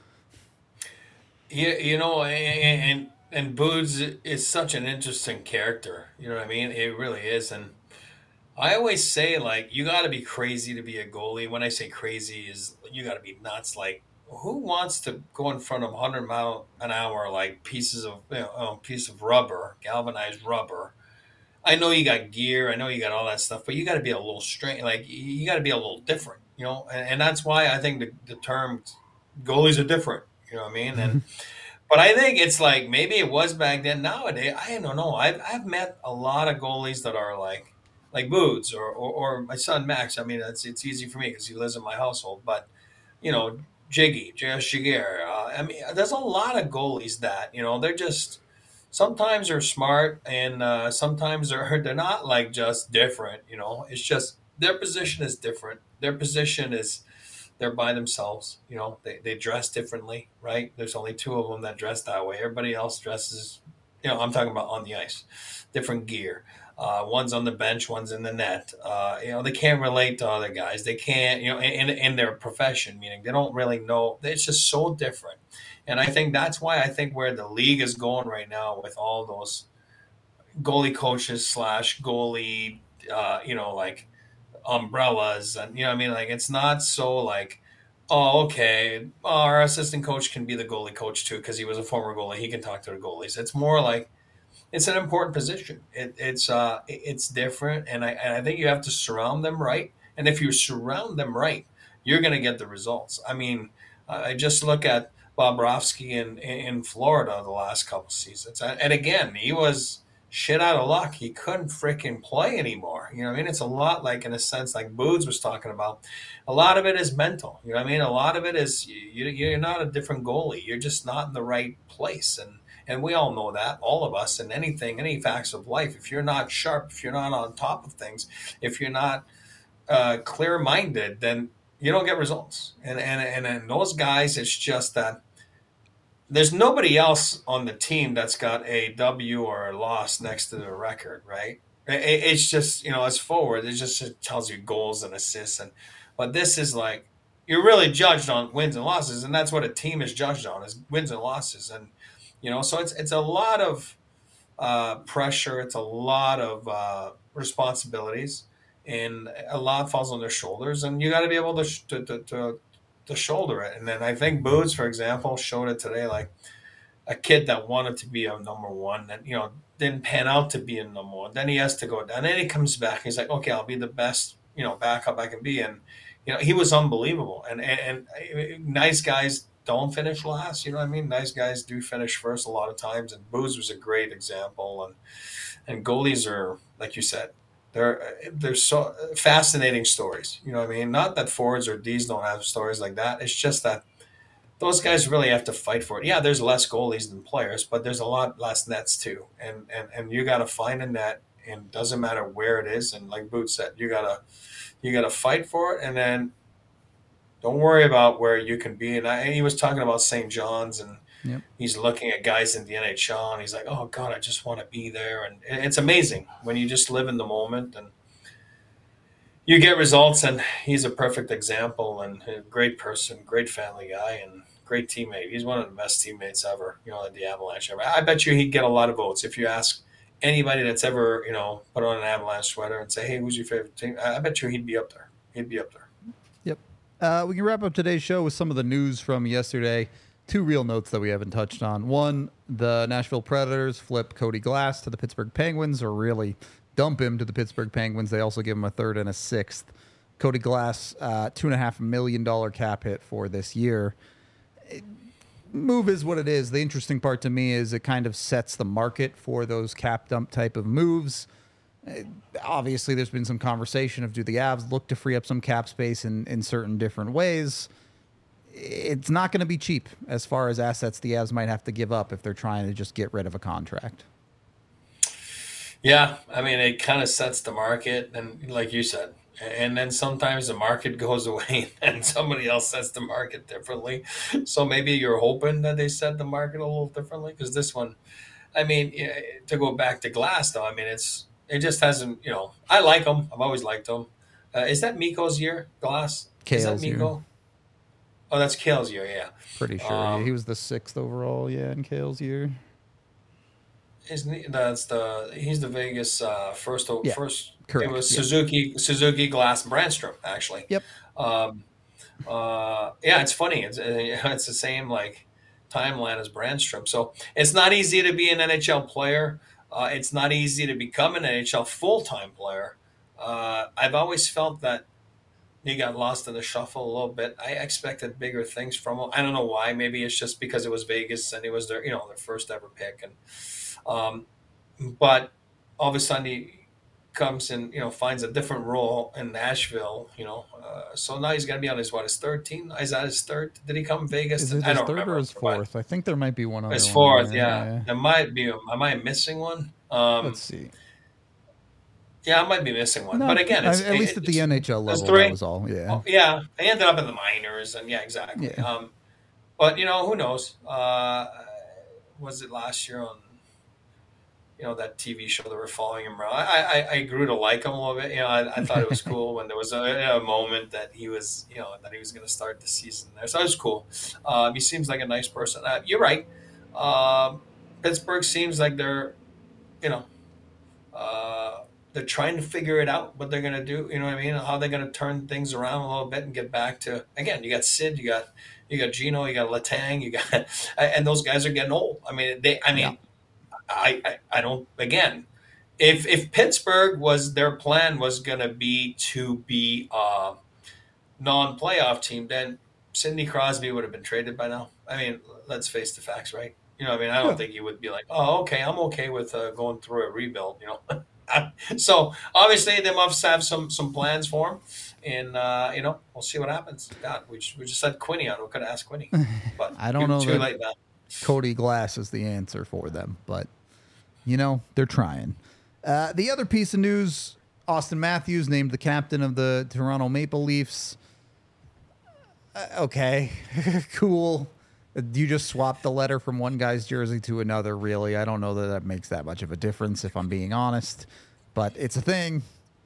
you, you know, and, and and Boots is such an interesting character. You know what I mean? It really is, and I always say like you got to be crazy to be a goalie. When I say crazy, is you got to be nuts. Like who wants to go in front of one hundred mile an hour like pieces of you know, a piece of rubber, galvanized rubber? I know you got gear, I know you got all that stuff, but you got to be a little straight. Like you got to be a little different, you know. And, and that's why I think the, the term goalies are different. You know what I mean? And but I think it's like maybe it was back then. Nowadays, I don't know. I've I've met a lot of goalies that are like like Boots or, or or my son Max. I mean, it's it's easy for me because he lives in my household, but you know. Jiggy, J S Shiger. Uh, I mean, there's a lot of goalies that, you know, they're just, sometimes they're smart and uh, sometimes they're, they're not like just different, you know, it's just their position is different. Their position is, they're by themselves. You know, they, they dress differently, right? There's only two of them that dress that way. Everybody else dresses, you know, I'm talking about on the ice, different gear. Uh, one's on the bench, one's in the net. Uh, you know, they can't relate to other guys. They can't, you know, in, in their profession, meaning they don't really know. It's just so different. And I think that's why I think where the league is going right now with all those goalie coaches slash goalie, uh, you know, like umbrellas. And, you know what I mean? Like, it's not so like, oh, okay, well, our assistant coach can be the goalie coach too because he was a former goalie. He can talk to the goalies. It's more like, it's an important position. It, it's uh, it's different, and I and I think you have to surround them right. And if you surround them right, you're going to get the results. I mean, I just look at Bobrovsky in in Florida the last couple seasons, and again, he was shit out of luck. He couldn't freaking play anymore. You know what I mean? It's a lot like, in a sense, like Boods was talking about. A lot of it is mental. You know what I mean? A lot of it is you, you're not a different goalie. You're just not in the right place, and. And we all know that, all of us, in anything, any facts of life. If you're not sharp, if you're not on top of things, if you're not uh, clear-minded, then you don't get results. And, and and and those guys, it's just that there's nobody else on the team that's got a W or a loss next to their record, right? It, it's just, you know, as forward, it just it tells you goals and assists. And but this is like, you're really judged on wins and losses, and that's what a team is judged on, is wins and losses. And you know, so it's it's a lot of uh, pressure. It's a lot of uh, responsibilities, and a lot falls on their shoulders. And you got to be able to, sh- to to to to shoulder it. And then I think Boots, for example, showed it today. Like a kid that wanted to be a number one, and you know didn't pan out to be a number one. Then he has to go down. Then he comes back. He's like, okay, I'll be the best, you know, backup I can be. And you know, he was unbelievable. And and, and nice guys don't finish last, you know what I mean? Nice guys do finish first a lot of times, and Booz was a great example. And and goalies are, like you said, they're they're so fascinating stories. You know what I mean? Not that forwards or D's don't have stories like that. It's just that those guys really have to fight for it. Yeah, there's less goalies than players, but there's a lot less nets too. And and and you got to find a net, and it doesn't matter where it is. And like Boots said, you gotta you gotta fight for it, and then don't worry about where you can be. And I, he was talking about Saint John's, and yep. He's looking at guys in the N H L, and he's like, oh, God, I just want to be there. And it's amazing when you just live in the moment and you get results. And he's a perfect example, and a great person, great family guy, and great teammate. He's one of the best teammates ever, you know, at the Avalanche ever. I bet you he'd get a lot of votes. If you ask anybody that's ever, you know, put on an Avalanche sweater and say, hey, who's your favorite team? I bet you he'd be up there. He'd be up there. Uh, we can wrap up today's show with some of the news from yesterday. Two real notes that we haven't touched on. One, the Nashville Predators flip Cody Glass to the Pittsburgh Penguins, or really dump him to the Pittsburgh Penguins. They also give him a third and a sixth. Cody Glass, uh, two and a half million dollar cap hit for this year. It, move is what it is. The interesting part to me is it kind of sets the market for those cap dump type of moves. Obviously, there's been some conversation of do the Avs look to free up some cap space in, in certain different ways. It's not going to be cheap as far as assets the Avs might have to give up if they're trying to just get rid of a contract. Yeah, I mean, it kind of sets the market, and like you said, and then sometimes the market goes away and somebody else sets the market differently. So maybe you're hoping that they set the market a little differently, because this one, I mean, to go back to Glass, though, I mean, it's It just hasn't, you know, I like him. I've always liked him. Uh, is that Mikko's year, Glass? Kale's is that Mikko? year. Oh, that's Kale's year, yeah. Pretty sure. Um, he was the sixth overall, yeah, in Kale's year. Isn't he? That's the, he's the Vegas uh, first, yeah, first. Correct. It was yeah. Suzuki, Suzuki, Glass, Brandstrom, actually. Yep. Um, uh, yeah, it's funny. It's, it's the same, like, timeline as Brandstrom. So it's not easy to be an N H L player. Uh, it's not easy to become an N H L full-time player. Uh, I've always felt that he got lost in the shuffle a little bit. I expected bigger things from him. I don't know why. Maybe it's just because it was Vegas and he was their, you know, their first ever pick. And um, but all of a sudden he comes and, you know, finds a different role in Nashville. You know, uh, so now he's going to be on his what his third team. Is that his third? Did he come Vegas? Is it his I don't third remember. or his fourth? I think there might be one other. His one fourth, there. yeah. yeah. There might be. Am I missing one? Um, Let's see. Yeah, I might be missing one, No, but again, it's, at least it, at the N H L level, three. that was all. Yeah, oh, yeah. They ended up in the minors, and yeah, exactly. Yeah. Um, but you know, who knows? Uh, was it last year on, you know, that T V show that were following him around? I, I, I grew to like him a little bit. You know, I, I thought it was cool when there was a, a moment that he was, you know, that he was going to start the season there. So it was cool. Um, he seems like a nice person. Uh, you're right. Um, Pittsburgh seems like they're, you know, uh, they're trying to figure it out what they're going to do. You know what I mean? How they're going to turn things around a little bit and get back to, again, you got Sid, you got, you got Gino, you got Letang, you got, and those guys are getting old. I mean, they, I mean, yeah. I, I, I don't, again, if, if Pittsburgh was, their plan was going to be to be a non-playoff team, then Sidney Crosby would have been traded by now. I mean, let's face the facts, right? You know, I mean, I don't yeah. think he would be like, oh, okay, I'm okay with uh, going through a rebuild, you know. So obviously they must have some some plans for him, and uh, you know, we'll see what happens. God, we just, we just had Quinny on. We could ask Quinny, but I don't know too that late now. Cody Glass is the answer for them, but you know they're trying. Uh, the other piece of news: Auston Matthews named the captain of the Toronto Maple Leafs. Uh, okay, cool. You just swapped the letter from one guy's jersey to another, really. I don't know that that makes that much of a difference, if I'm being honest, but it's a thing.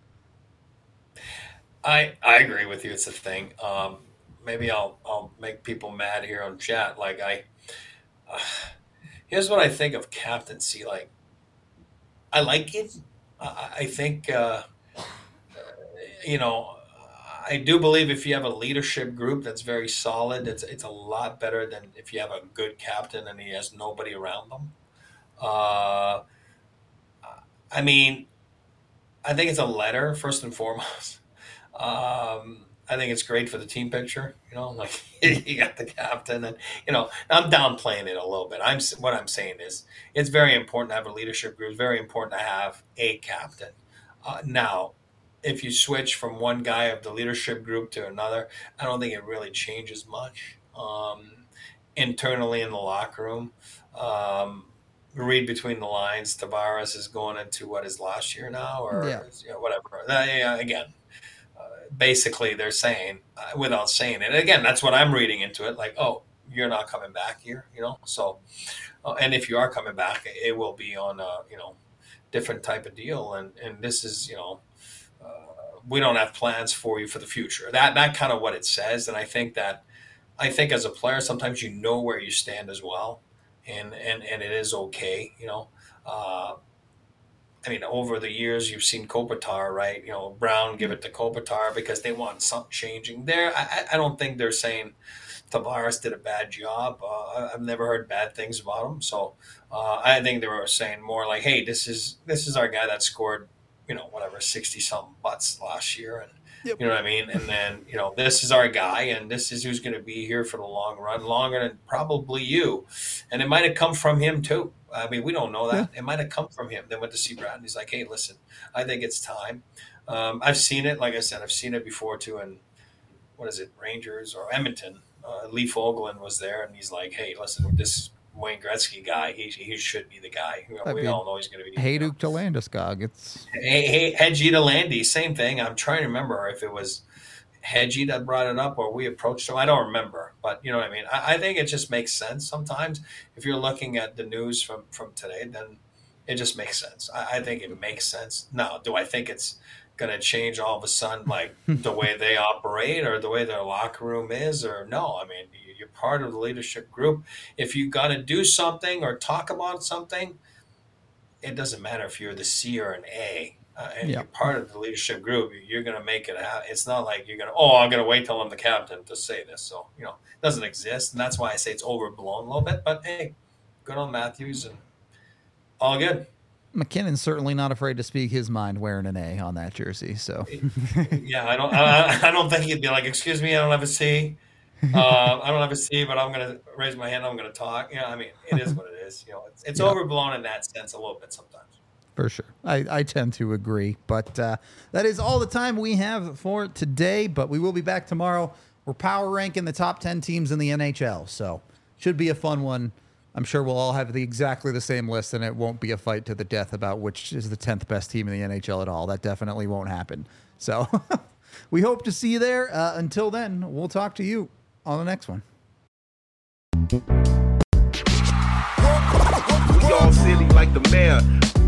I I agree with you. It's a thing. Um, maybe I'll I'll make people mad here on chat. Like I, uh, here's what I think of captaincy. Like, I like it. I, I think uh, you know. I do believe if you have a leadership group that's very solid, it's it's a lot better than if you have a good captain and he has nobody around them. Uh, I mean, I think it's a letter first and foremost. Um, I think it's great for the team picture. You know, like you got the captain, and you know, I'm downplaying it a little bit. I'm what I'm saying is it's very important to have a leadership group. It's very important to have a captain. Uh, now. If you switch from one guy of the leadership group to another, I don't think it really changes much um, internally in the locker room. Um, read between the lines. Tavares is going into what is last year now, or yeah. you know, whatever. Uh, yeah, again, uh, basically they're saying uh, without saying it. And again, that's what I'm reading into it. Like, oh, you're not coming back here, you know. So, uh, and if you are coming back, it will be on a you know different type of deal. And and this is you know. Uh, we don't have plans for you for the future. That that kind of what it says, and I think that I think as a player, sometimes you know where you stand as well, and and and it is okay, you know. Uh, I mean, over the years, you've seen Kopitar, right? You know, Brown give it to Kopitar because they want something changing there. I, I don't think they're saying Tavares did a bad job. Uh, I've never heard bad things about him, so uh, I think they were saying more like, "Hey, this is this is our guy that scored." You know, whatever, sixty something butts last year. And yep. you know what I mean? And then, you know, this is our guy and this is who's going to be here for the long run, longer than probably you. And it might have come from him too. I mean, we don't know that. Yeah. It might have come from him. Then went to see Brad and he's like, hey, listen, I think it's time. Um, I've seen it. Like I said, I've seen it before too. And what is it? Rangers or Edmonton. Uh, Lee Fogolin was there and he's like, hey, listen, this Wayne Gretzky guy, he he should be the guy. You know, we all know he's going to be. Hey, Duke to Landeskog. It's hey, hey, Hedgie to Landy, same thing. I'm trying to remember if it was Hedgie that brought it up or we approached him. I don't remember, but you know what I mean. I, I think it just makes sense sometimes. If you're looking at the news from from today, then it just makes sense. I, I think it makes sense. Now, do I think it's going to change all of a sudden, like the way they operate or the way their locker room is, or no? I mean. You're part of the leadership group. If you got to do something or talk about something, it doesn't matter if you're the C or an A. Uh, and yep. you're part of the leadership group. You're going to make it happen. It's not like you're going to, oh, I'm going to wait till I'm the captain to say this. So, you know, it doesn't exist. And that's why I say it's overblown a little bit. But, hey, good on Matthews and all good. McKinnon's certainly not afraid to speak his mind wearing an A on that jersey. So, yeah, I don't, I, I don't think he'd be like, excuse me, I don't have a C. uh, I don't have a C, but I'm going to raise my hand. I'm going to talk. You know, I mean, it is what it is. You know, it's, it's yeah. overblown in that sense a little bit sometimes. For sure. I, I tend to agree. But uh, that is all the time we have for today. But we will be back tomorrow. We're power ranking the top ten teams in the N H L. So should be a fun one I'm sure we'll all have the exactly the same list, and it won't be a fight to the death about which is the tenth best team in the N H L at all. That definitely won't happen. So we hope to see you there. Uh, until then, we'll talk to you on the next one. We all silly like the mayor.